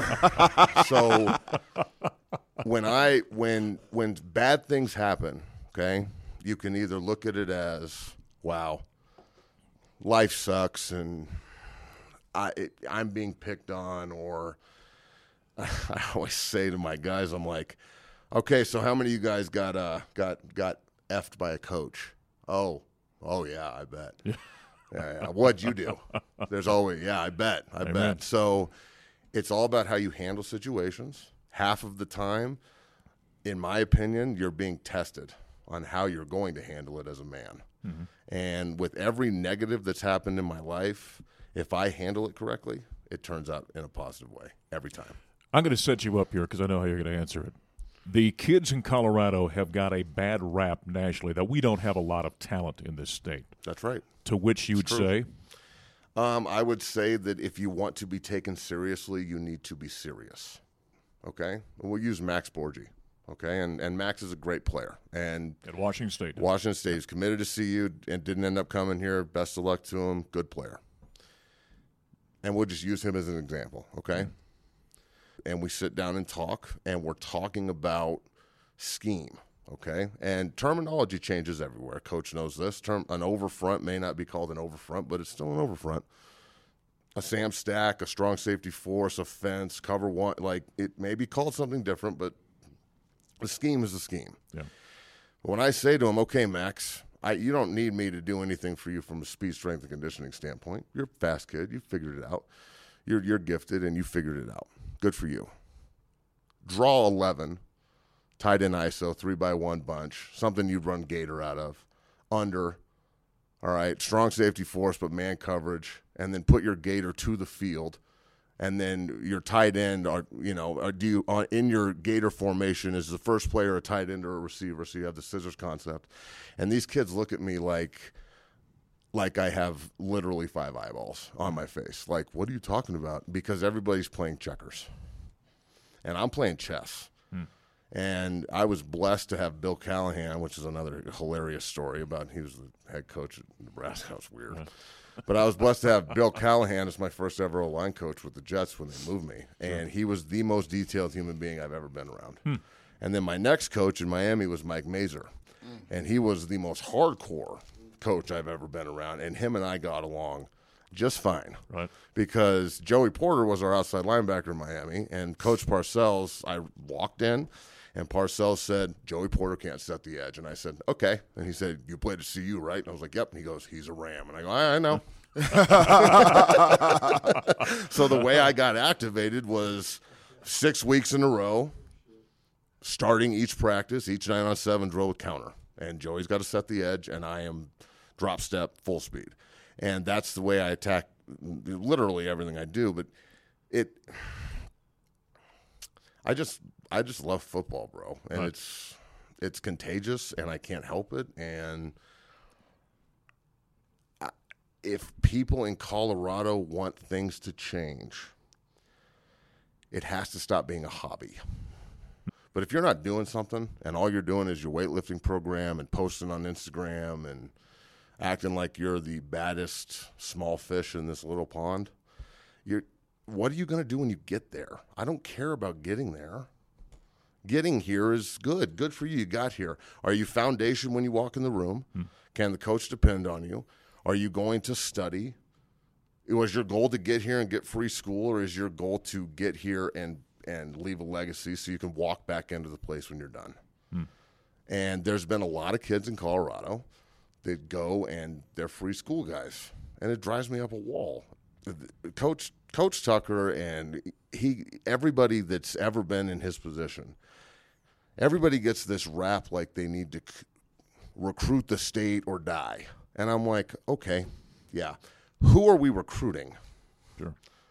when bad things happen, okay, you can either look at it as, wow, life sucks and I'm being picked on, or I always say to my guys, I'm like, okay, so how many of you guys got effed by a coach? Oh yeah, I bet. Yeah. What'd you do? There's always, I bet. So it's all about how you handle situations. Half of the time, in my opinion, you're being tested on how you're going to handle it as a man. Mm-hmm. And with every negative that's happened in my life, if I handle it correctly, it turns out in a positive way every time. I'm going to set you up here because I know how you're going to answer it. The kids in Colorado have got a bad rap nationally that we don't have a lot of talent in this state. That's right. To which you would say? I would say that if you want to be taken seriously, you need to be serious. Okay? We'll use Max Borgi. Okay? And Max is a great player. And at Washington State. Washington State is committed to CU and didn't end up coming here. Best of luck to him. Good player. And we'll just use him as an example. Okay? Mm-hmm. And we sit down and talk, and we're talking about scheme. okay? And terminology changes everywhere. Coach knows this. An overfront may not be called an overfront, but it's still an overfront. A Sam stack, a strong safety force, a fence, cover one, like it may be called something different, but the scheme is the scheme. Yeah. When I say to him, okay, Max, you don't need me to do anything for you from a speed, strength, and conditioning standpoint. You're a fast kid. You figured it out. You're gifted, and you figured it out. Good for you. Draw 11, tight end ISO, 3x1 bunch, something you'd run Gator out of, under, all right, strong safety force but man coverage, and then put your Gator to the field, and then your tight end, in your Gator formation is the first player a tight end or a receiver, so you have the scissors concept. And these kids look at me like I have literally 5 eyeballs on my face. Like, what are you talking about? Because everybody's playing checkers. And I'm playing chess. And I was blessed to have Bill Callahan, which is another hilarious story about he was the head coach at Nebraska. That was weird. But I was blessed to have Bill Callahan as my first ever O-line coach with the Jets when they moved me. And he was the most detailed human being I've ever been around. And then my next coach in Miami was Mike Mazer. And he was the most hardcore coach I've ever been around. And him and I got along just fine. Right. Because Joey Porter was our outside linebacker in Miami. And Coach Parcells, I walked in. And Parcells said, Joey Porter can't set the edge. And I said, okay. And he said, you played at CU, right? And I was like, yep. And he goes, he's a Ram. And I go, I know. So the way I got activated was 6 weeks in a row, starting each practice, each 9-on-7 drill with counter. And Joey's got to set the edge, and I am drop step, full speed. And that's the way I attack literally everything I do. But I just love football, bro, and right. it's contagious, and I can't help it. And if people in Colorado want things to change, it has to stop being a hobby. But if you're not doing something, and all you're doing is your weightlifting program and posting on Instagram and acting like you're the baddest small fish in this little pond, what are you going to do when you get there? I don't care about getting there. Getting here is good. Good for you. You got here. Are you foundation when you walk in the room? Can the coach depend on you? Are you going to study? Was your goal to get here and get free school, or is your goal to get here and leave a legacy so you can walk back into the place when you're done? And there's been a lot of kids in Colorado that go and they're free school guys, and it drives me up a wall. Coach Tucker and everybody that's ever been in his position, everybody gets this rap like they need to recruit the state or die. And I'm like, okay, yeah. Who are we recruiting? Sure.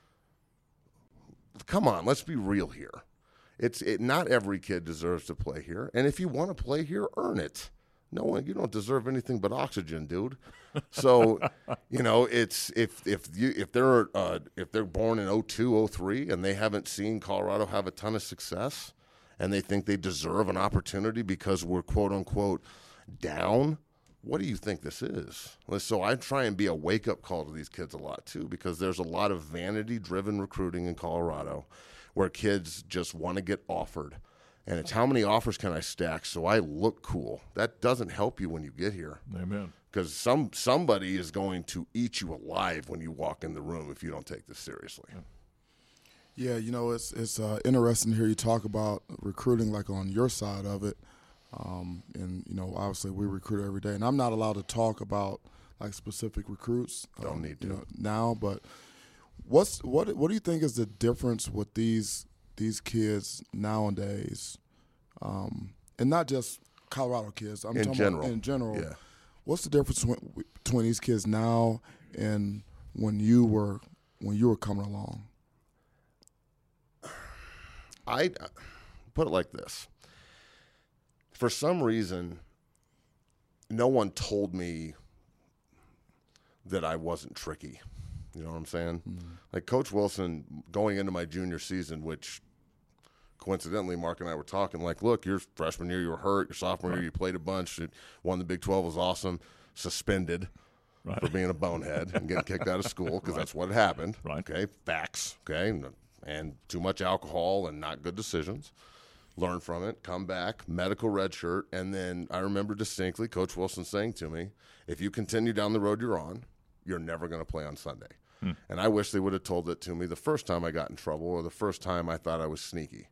Come on, let's be real here. Not every kid deserves to play here. And if you want to play here, earn it. No, you don't deserve anything but oxygen, dude. So, it's if they're born in 02, 03 and they haven't seen Colorado have a ton of success and they think they deserve an opportunity because we're quote unquote down, what do you think this is? So I try and be a wake-up call to these kids a lot too, because there's a lot of vanity-driven recruiting in Colorado where kids just want to get offered. And it's how many offers can I stack so I look cool. That doesn't help you when you get here. Amen. Because somebody is going to eat you alive when you walk in the room if you don't take this seriously. Yeah, it's interesting to hear you talk about recruiting, like on your side of it. And obviously we recruit every day, and I'm not allowed to talk about like specific recruits. Don't need to now, but what do you think is the difference with these kids nowadays, and not just Colorado kids? I'm talking about in general. Yeah. What's the difference between these kids now and when you were coming along? I put it like this. For some reason, no one told me that I wasn't tricky. You know what I'm saying? Mm-hmm. Like Coach Wilson, going into my junior season, which coincidentally Mark and I were talking, like, look, your freshman year you were hurt, your sophomore year you played a bunch, won the Big 12, was awesome, suspended for being a bonehead and getting kicked out of school because that's what happened. Right. Okay, facts. Okay, and too much alcohol and not good decisions. learn from it, come back, medical red shirt, and then I remember distinctly Coach Wilson saying to me, if you continue down the road you're on, you're never going to play on Sunday. And I wish they would have told it to me the first time I got in trouble or the first time I thought I was sneaky.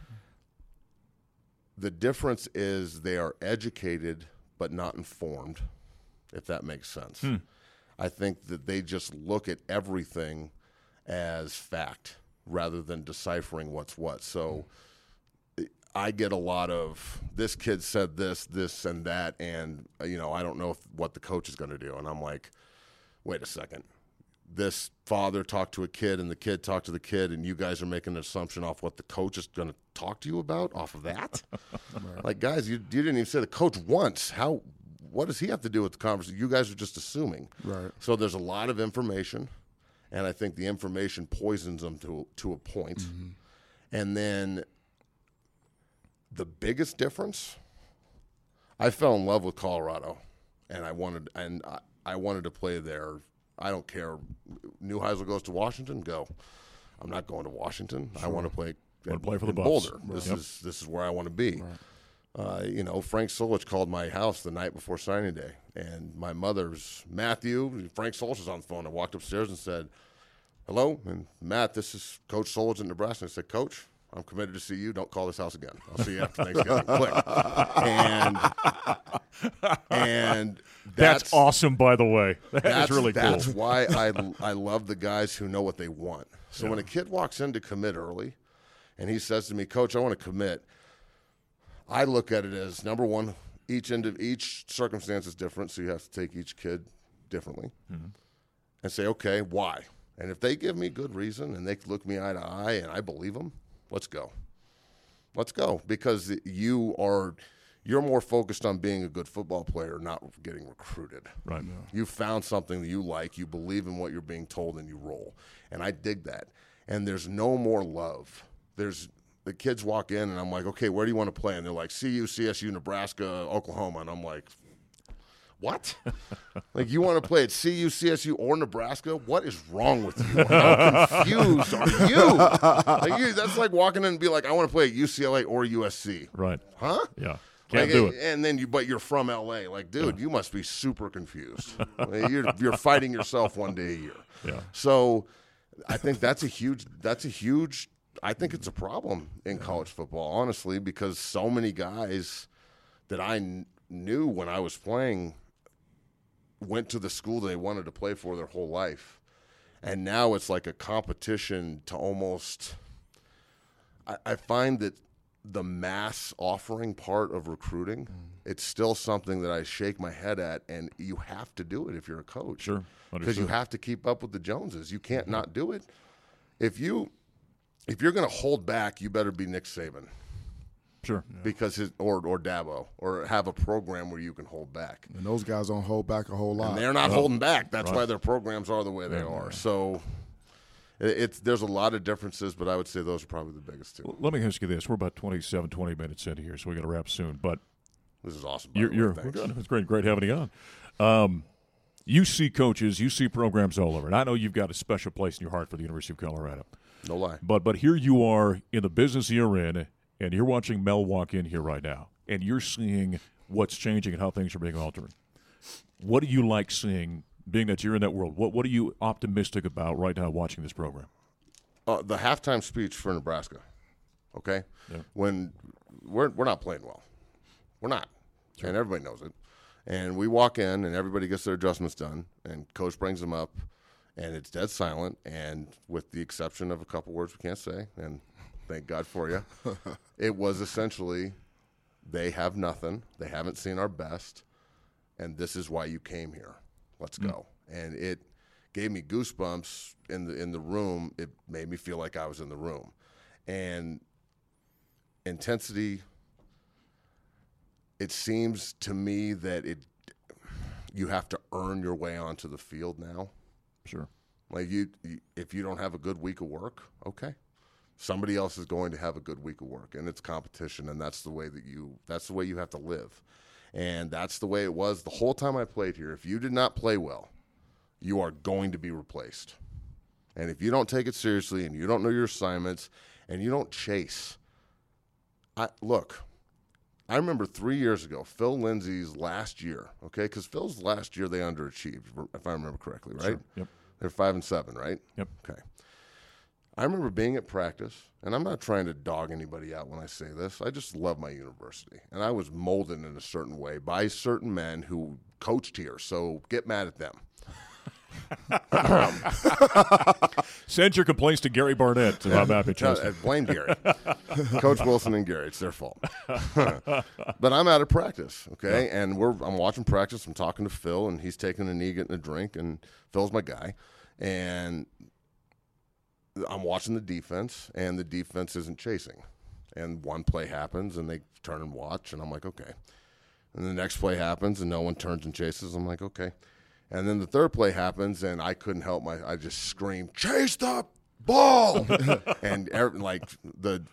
The difference is they are educated but not informed, if that makes sense. I think that they just look at everything as fact rather than deciphering what's what. So I get a lot of, this kid said this, this, and that, and, I don't know what the coach is going to do. And I'm like, wait a second. This father talked to a kid and the kid talked to the kid, and you guys are making an assumption off what the coach is going to talk to you about off of that? Like, guys, you didn't even say the coach once. What does he have to do with the conversation? You guys are just assuming. Right. So there's a lot of information, and I think the information poisons them to a point. Mm-hmm. And then the biggest difference, I fell in love with Colorado, and I wanted to play there. I don't care. Neuheisel goes to Washington, go. I'm not going to Washington. Sure. I want to play for the Boulder. Buffs. This is where I want to be. Right. Frank Solich called my house the night before signing day, and my mother's Matthew. Frank Solich was on the phone. I walked upstairs and said, "Hello, and Matt, this is Coach Solich in Nebraska." I said, "Coach, I'm committed to see you. Don't call this house again. I'll see you after Thanksgiving." Click. And that's awesome, by the way. That's really cool. That's why I love the guys who know what they want. So when a kid walks in to commit early and he says to me, "Coach, I want to commit," I look at it as, number one, each circumstance is different, so you have to take each kid differently and say, okay, why? And if they give me good reason and they look me eye to eye and I believe them, let's go. Let's go, because you're more focused on being a good football player, not getting recruited. Right. Yeah. You found something that you like, you believe in what you're being told, and you roll. And I dig that. And there's no more love. The kids walk in, and I'm like, okay, where do you want to play? And they're like, CU, CSU, Nebraska, Oklahoma. And I'm like, what? Like, you want to play at CU, CSU, or Nebraska? What is wrong with you? How confused are you? That's like walking in and be like, I want to play at UCLA or USC. Right. Huh? Yeah. Can't do it. And then but you're from LA. Like, dude, you must be super confused. You're fighting yourself one day a year. Yeah. So I think that's a huge I think it's a problem in college football, honestly, because so many guys that I knew when I was playing went to the school they wanted to play for their whole life. And now it's like a competition to almost – I find that the mass offering part of recruiting, it's still something that I shake my head at, and you have to do it if you're a coach. Sure. Because you have to keep up with the Joneses. You can't not do it. If you're going to hold back, you better be Nick Saban. Sure. Because or Dabo, or have a program where you can hold back. And those guys don't hold back a whole lot. And they're not holding back. That's why their programs are the way they are. So there's a lot of differences, but I would say those are probably the biggest two. Well, let me ask you this. We're about 20 minutes in here, so we got to wrap soon. But this is awesome. We're good. It's great having you on. You see coaches, you see programs all over, and I know you've got a special place in your heart for the University of Colorado. No lie. But here you are in the business you're in, and you're watching Mel walk in here right now, and you're seeing what's changing and how things are being altered. What do you like seeing, being that you're in that world? What are you optimistic about right now watching this program? The halftime speech for Nebraska, okay? Yeah. When we're not playing well. We're not. Sure. And everybody knows it. And we walk in, and everybody gets their adjustments done, and coach brings them up, and it's dead silent, and with the exception of a couple words we can't say, and thank God for you, it was essentially, they have nothing, they haven't seen our best, and this is why you came here. Let's go. And it gave me goosebumps in the room. It made me feel like I was in the room. And intensity, it seems to me that you have to earn your way onto the field now. Sure. Like if you don't have a good week of work, okay. Somebody else is going to have a good week of work, and it's competition, and that's the way you have to live. And that's the way it was the whole time I played here. If you did not play well, you are going to be replaced. And if you don't take it seriously and you don't know your assignments and you don't chase, I remember 3 years ago, Phil Lindsay's last year, okay, because Phil's last year they underachieved, if I remember correctly, right? Sure. Yep. They're 5-7, right? Yep. Okay. I remember being at practice, and I'm not trying to dog anybody out when I say this. I just love my university, and I was molded in a certain way by certain men who coached here, so get mad at them. Send your complaints to Gary Barnett about Matt McChesney. Blame Gary. Coach Wilson and Gary. It's their fault. But I'm out of practice, okay? Yeah. And I'm watching practice. I'm talking to Phil, and he's taking a knee, getting a drink, and Phil's my guy. And I'm watching the defense, and the defense isn't chasing. And one play happens, and they turn and watch, and I'm like, okay. And the next play happens, and no one turns and chases. I'm like, okay. And then the third play happens, and I couldn't help I just screamed, "Chase the ball!" And like the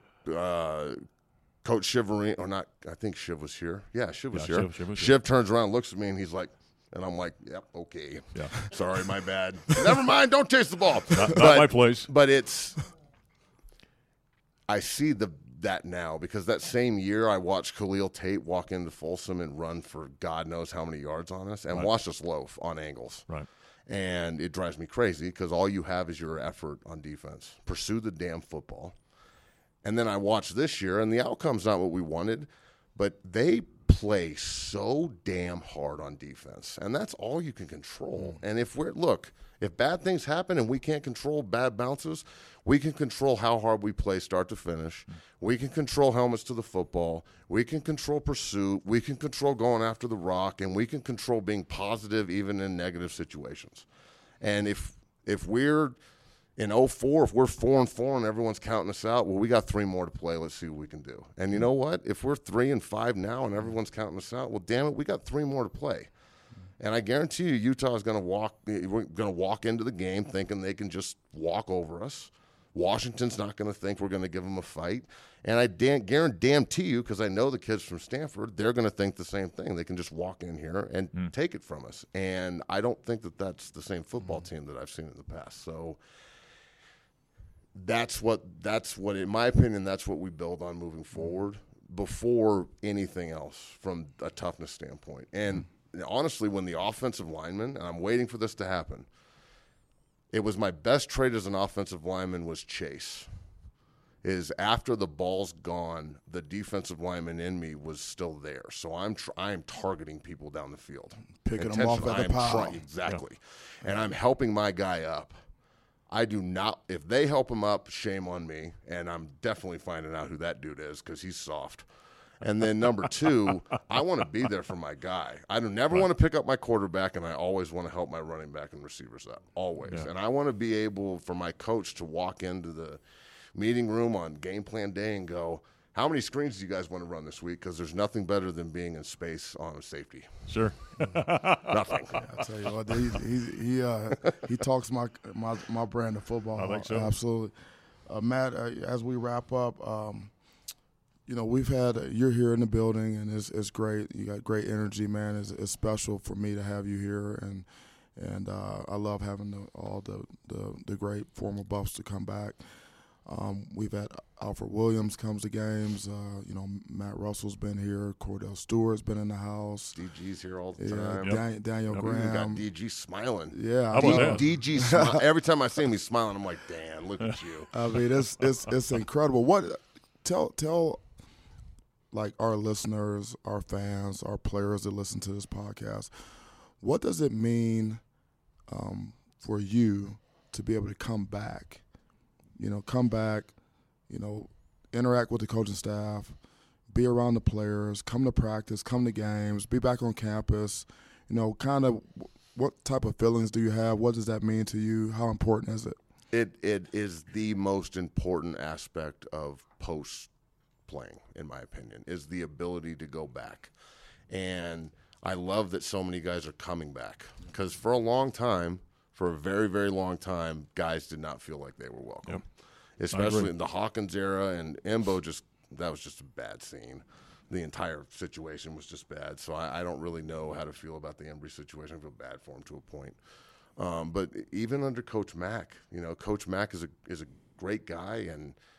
coach Shiverine, or not, I think Shiv was here. Yeah, Shiv was here. Shiv turns around, looks at me, and he's like, and I'm like, "Yep, okay. Yeah. Sorry, my bad. Never mind, don't chase the ball." Not my place. But I see that now, because that same year I watched Khalil Tate walk into Folsom and run for God knows how many yards on us and watch us loaf on angles. Right. And it drives me crazy because all you have is your effort on defense. Pursue the damn football. And then I watched this year, and the outcome's not what we wanted, but they play so damn hard on defense, and that's all you can control. And if bad things happen and we can't control bad bounces, we can control how hard we play start to finish. We can control helmets to the football. We can control pursuit. We can control going after the rock, and we can control being positive even in negative situations. And if we're in 04, if we're 4-4 and everyone's counting us out, well, we got 3 more to play. Let's see what we can do. And you know what? If we're 3-5 now and everyone's counting us out, well, damn it, we got 3 more to play. And I guarantee you, Utah is going to walk into the game thinking they can just walk over us. Washington's not going to think we're going to give them a fight. And I guarantee you, because I know the kids from Stanford, they're going to think the same thing. They can just walk in here and take it from us. And I don't think that that's the same football team that I've seen in the past. So that's what, in my opinion, that's what we build on moving forward before anything else from a toughness standpoint. And honestly, when the offensive lineman, and I'm waiting for this to happen, it was my best trade as an offensive lineman was Chase. Is after the ball's gone, the defensive lineman in me was still there. So I'm targeting people down the field. Picking them off at the pile. Exactly. Yeah. And I'm helping my guy up. I do not – if they help him up, shame on me. And I'm definitely finding out who that dude is because he's soft. And then number 2, I want to be there for my guy. I never want to pick up my quarterback, and I always want to help my running back and receivers up, always. Yeah. And I want to be able for my coach to walk into the meeting room on game plan day and go, how many screens do you guys want to run this week? Because there's nothing better than being in space on safety. Sure. Nothing. Yeah, I'll tell you what, he talks my brand of football. I think so. Absolutely. Matt, as we wrap up, we've had you're here in the building, and it's great. You got great energy, man. It's special for me to have you here, and I love having all the great former Buffs to come back. We've had Alfred Williams comes to games. Matt Russell's been here. Cordell Stewart's been in the house. DG's here all the time. Daniel Graham. We got DG smiling. Yeah, DG smile. Every time I see him, he's smiling. I'm like, Dan, look at you. I mean, it's incredible. What tell like our listeners, our fans, our players that listen to this podcast, what does it mean for you to be able to come back? Interact with the coaching staff, be around the players, come to practice, come to games, be back on campus. Kind of what type of feelings do you have? What does that mean to you? How important is it? It is the most important aspect of post-playing, in my opinion, is the ability to go back. And I love that so many guys are coming back because for a very, very long time, guys did not feel like they were welcome. Yep. Especially in the Hawkins era, and Embo that was just a bad scene. The entire situation was just bad. So I don't really know how to feel about the Embry situation. I feel bad for him to a point. But even under Coach Mack, Coach Mack is a great guy, and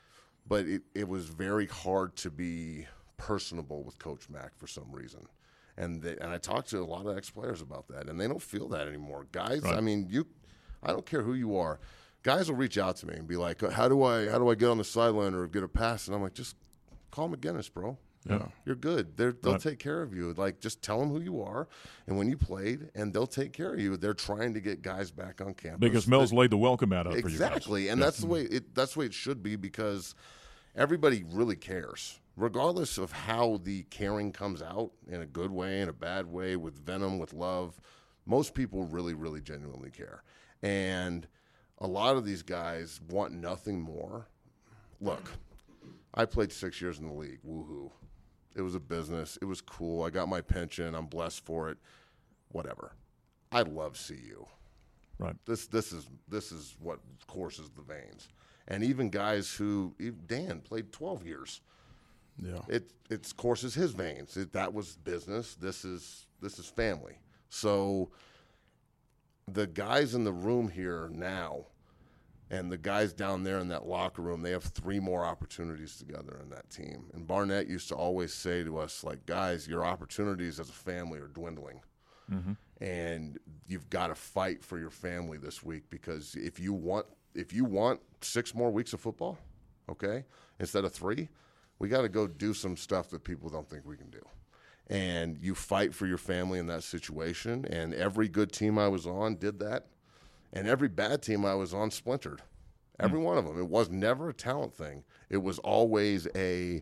but it was very hard to be personable with Coach Mack for some reason. And I talked to a lot of ex-players about that, and they don't feel that anymore. Guys, Right. I mean, I don't care who you are. Guys will reach out to me and be like, how do I get on the sideline or get a pass? And I'm like, just call McGinnis, bro. Yeah. You're good. They'll take care of you. Like, just tell them who you are and when you played, and they'll take care of you. They're trying to get guys back on campus. Because Mel's laid the welcome mat out for you guys. Exactly, and that's the way it should be, because everybody really cares. Regardless of how the caring comes out, in a good way, in a bad way, with venom, with love, most people really, really genuinely care. And a lot of these guys want nothing more. Look, I played 6 years in the league. Woohoo. It was a business. It was cool. I got my pension. I'm blessed for it. Whatever. I love CU. Right. This is what courses the veins. And even guys Dan played 12 years. Yeah. It courses his veins. That was business. This is family. So the guys in the room here now and the guys down there in that locker room, they have 3 more opportunities together in that team. And Barnett used to always say to us, like, guys, your opportunities as a family are dwindling. Mm-hmm. And you've got to fight for your family this week, because if you want 6 more weeks of football, okay, instead of 3, we got to go do some stuff that people don't think we can do. And you fight for your family in that situation. And every good team I was on did that. And every bad team I was on splintered. Every one of them. It was never a talent thing. It was always a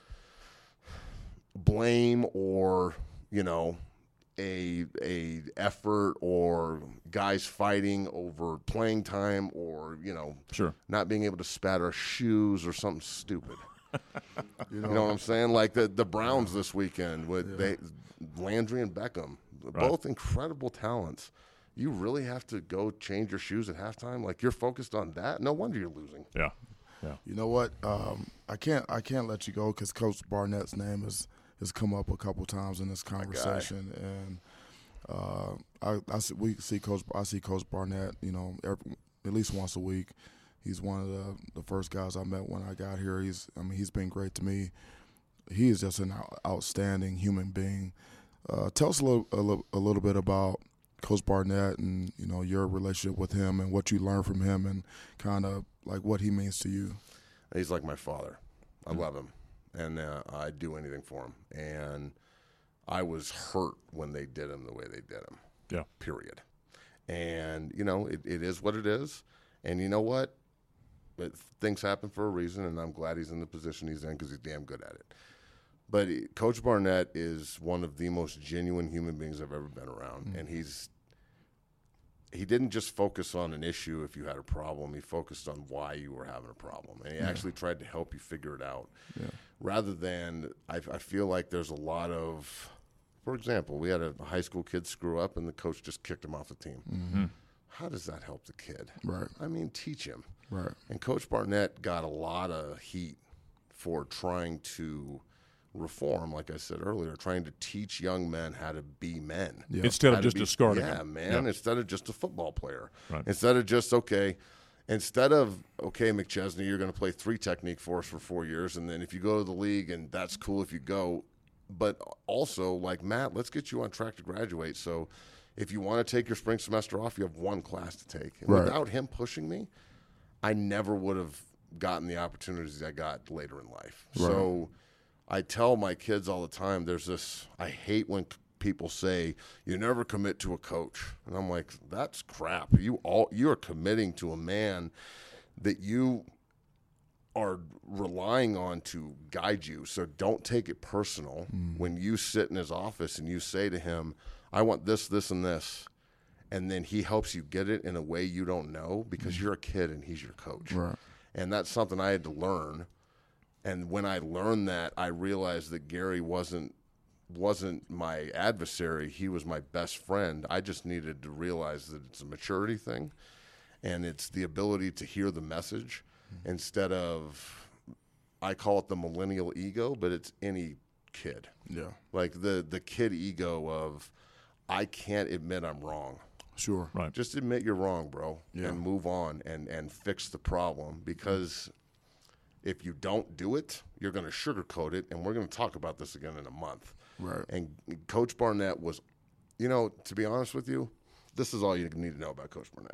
blame or, a effort, or guys fighting over playing time, or, Sure. not being able to spatter shoes or something stupid. You know what I'm saying? Like the Browns this weekend with Landry and Beckham, both incredible talents. You really have to go change your shoes at halftime? Like, you're focused on that? No wonder you're losing. Yeah. You know what? I can't let you go, because Coach Barnett's name has come up a couple times in this conversation, and I see Coach Barnett, at least once a week. He's one of the first guys I met when I got here. He's been great to me. He is just an outstanding human being. Tell us a little bit about Coach Barnett and your relationship with him and what you learned from him, and kind of like what he means to you. He's like my father. I love him, and I'd do anything for him. And I was hurt when they did him the way they did him. Yeah. Period. And it is what it is. And you know what? Things happen for a reason, and I'm glad he's in the position he's in, because he's damn good at it. But Coach Barnett is one of the most genuine human beings I've ever been around, and he didn't just focus on an issue if you had a problem. He focused on why you were having a problem, and he actually tried to help you figure it out. Yeah. Rather than, I feel like there's a lot of, for example, we had a high school kid screw up, and the coach just kicked him off the team. Mm-hmm. How does that help the kid? Right. I mean, teach him. Right. And Coach Barnett got a lot of heat for trying to reform, like I said earlier, trying to teach young men how to be men. Yeah. Instead of just discarding Yeah, them. man. Instead of just a football player. Right. Instead of, McChesney, you're going to play 3 technique for us for 4 years, and then if you go to the league, and that's cool if you go, but also, like, Matt, let's get you on track to graduate. So if you want to take your spring semester off, you have 1 class to take. And Right. without him pushing me, I never would have gotten the opportunities I got later in life. Right. So I tell my kids all the time, I hate when people say, you never commit to a coach. And I'm like, that's crap. You are committing to a man that you are relying on to guide you. So don't take it personal when you sit in his office and you say to him, I want this, this, and this. And then he helps you get it in a way you don't know, because you're a kid and he's your coach. Right. And that's something I had to learn. And when I learned that, I realized that Gary wasn't my adversary. He was my best friend. I just needed to realize that it's a maturity thing, and it's the ability to hear the message instead of, I call it the millennial ego, but it's any kid. Yeah. Like the kid ego of, I can't admit I'm wrong. Sure. Right. Just admit you're wrong, bro, Yeah. and move on and fix the problem, because if you don't do it, you're going to sugarcoat it, and we're going to talk about this again in a month. Right. And Coach Barnett was, to be honest with you, this is all you need to know about Coach Barnett.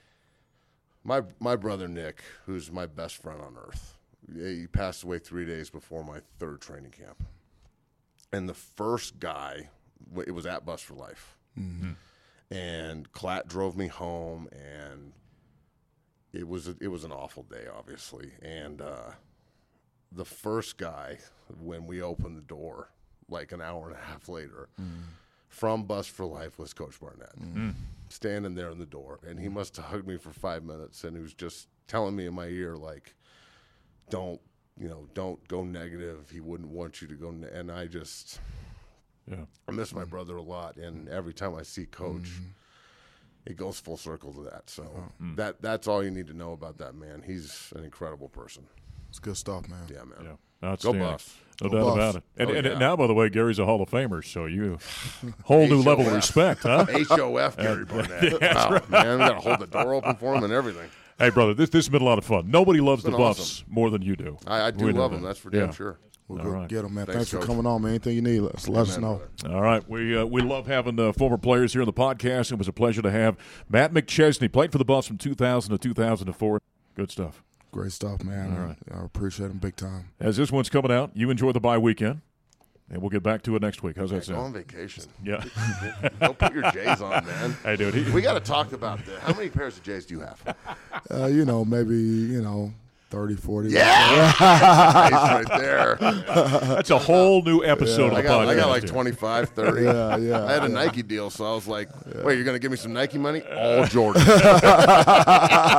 My brother Nick, who's my best friend on earth, he passed away 3 days before my third training camp. And the first guy, it was at Bus for Life. Mm-hmm. And Klatt drove me home, and it was an awful day, obviously. And the first guy, when we opened the door, like an hour and a half later, from Bus for Life was Coach Barnett, standing there in the door. And he must have hugged me for 5 minutes, and he was just telling me in my ear, like, don't go negative. He wouldn't want you to go. And I miss my brother a lot. And every time I see Coach, it goes full circle to that. So that's all you need to know about that man. He's an incredible person. It's good stuff, man. Yeah, man. Yeah. Go Buffs. No Go doubt Buffs. about it. And yeah. now, by the way, Gary's a Hall of Famer, so you whole new level of respect, huh? HOF Gary Barnett. Wow, man. We got to hold the door open for him and everything. Hey, brother, this has been a lot of fun. Nobody loves the been Buffs awesome. more than you do. I do We know love that. him. That's for damn Yeah. sure. We'll All go right. get them, man. Thanks, Thanks for Coach. coming on, man. Anything you need, let us know. Brother. All right, we love having former players here on the podcast. It was a pleasure to have Matt McChesney. Played for the Buffs from 2000 to 2004. Good stuff. Great stuff, man. All right. I appreciate them big time. As this one's coming out, you enjoy the bye weekend, and we'll get back to it next week. How's that Go on sound? vacation. Yeah. Don't put your J's on, man. Hey, dude. We got to talk about this. How many pairs of J's do you have? Maybe 30, 40. Yeah! Nice right there. That's a whole new episode of the I podcast. got like here. 25, 30. Yeah. I had a Nike deal, so I was like, wait, you're going to give me some Nike money? All Jordan.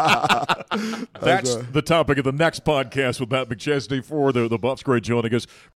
That's the topic of the next podcast with Matt McChesney for the Buffs. Great joining us.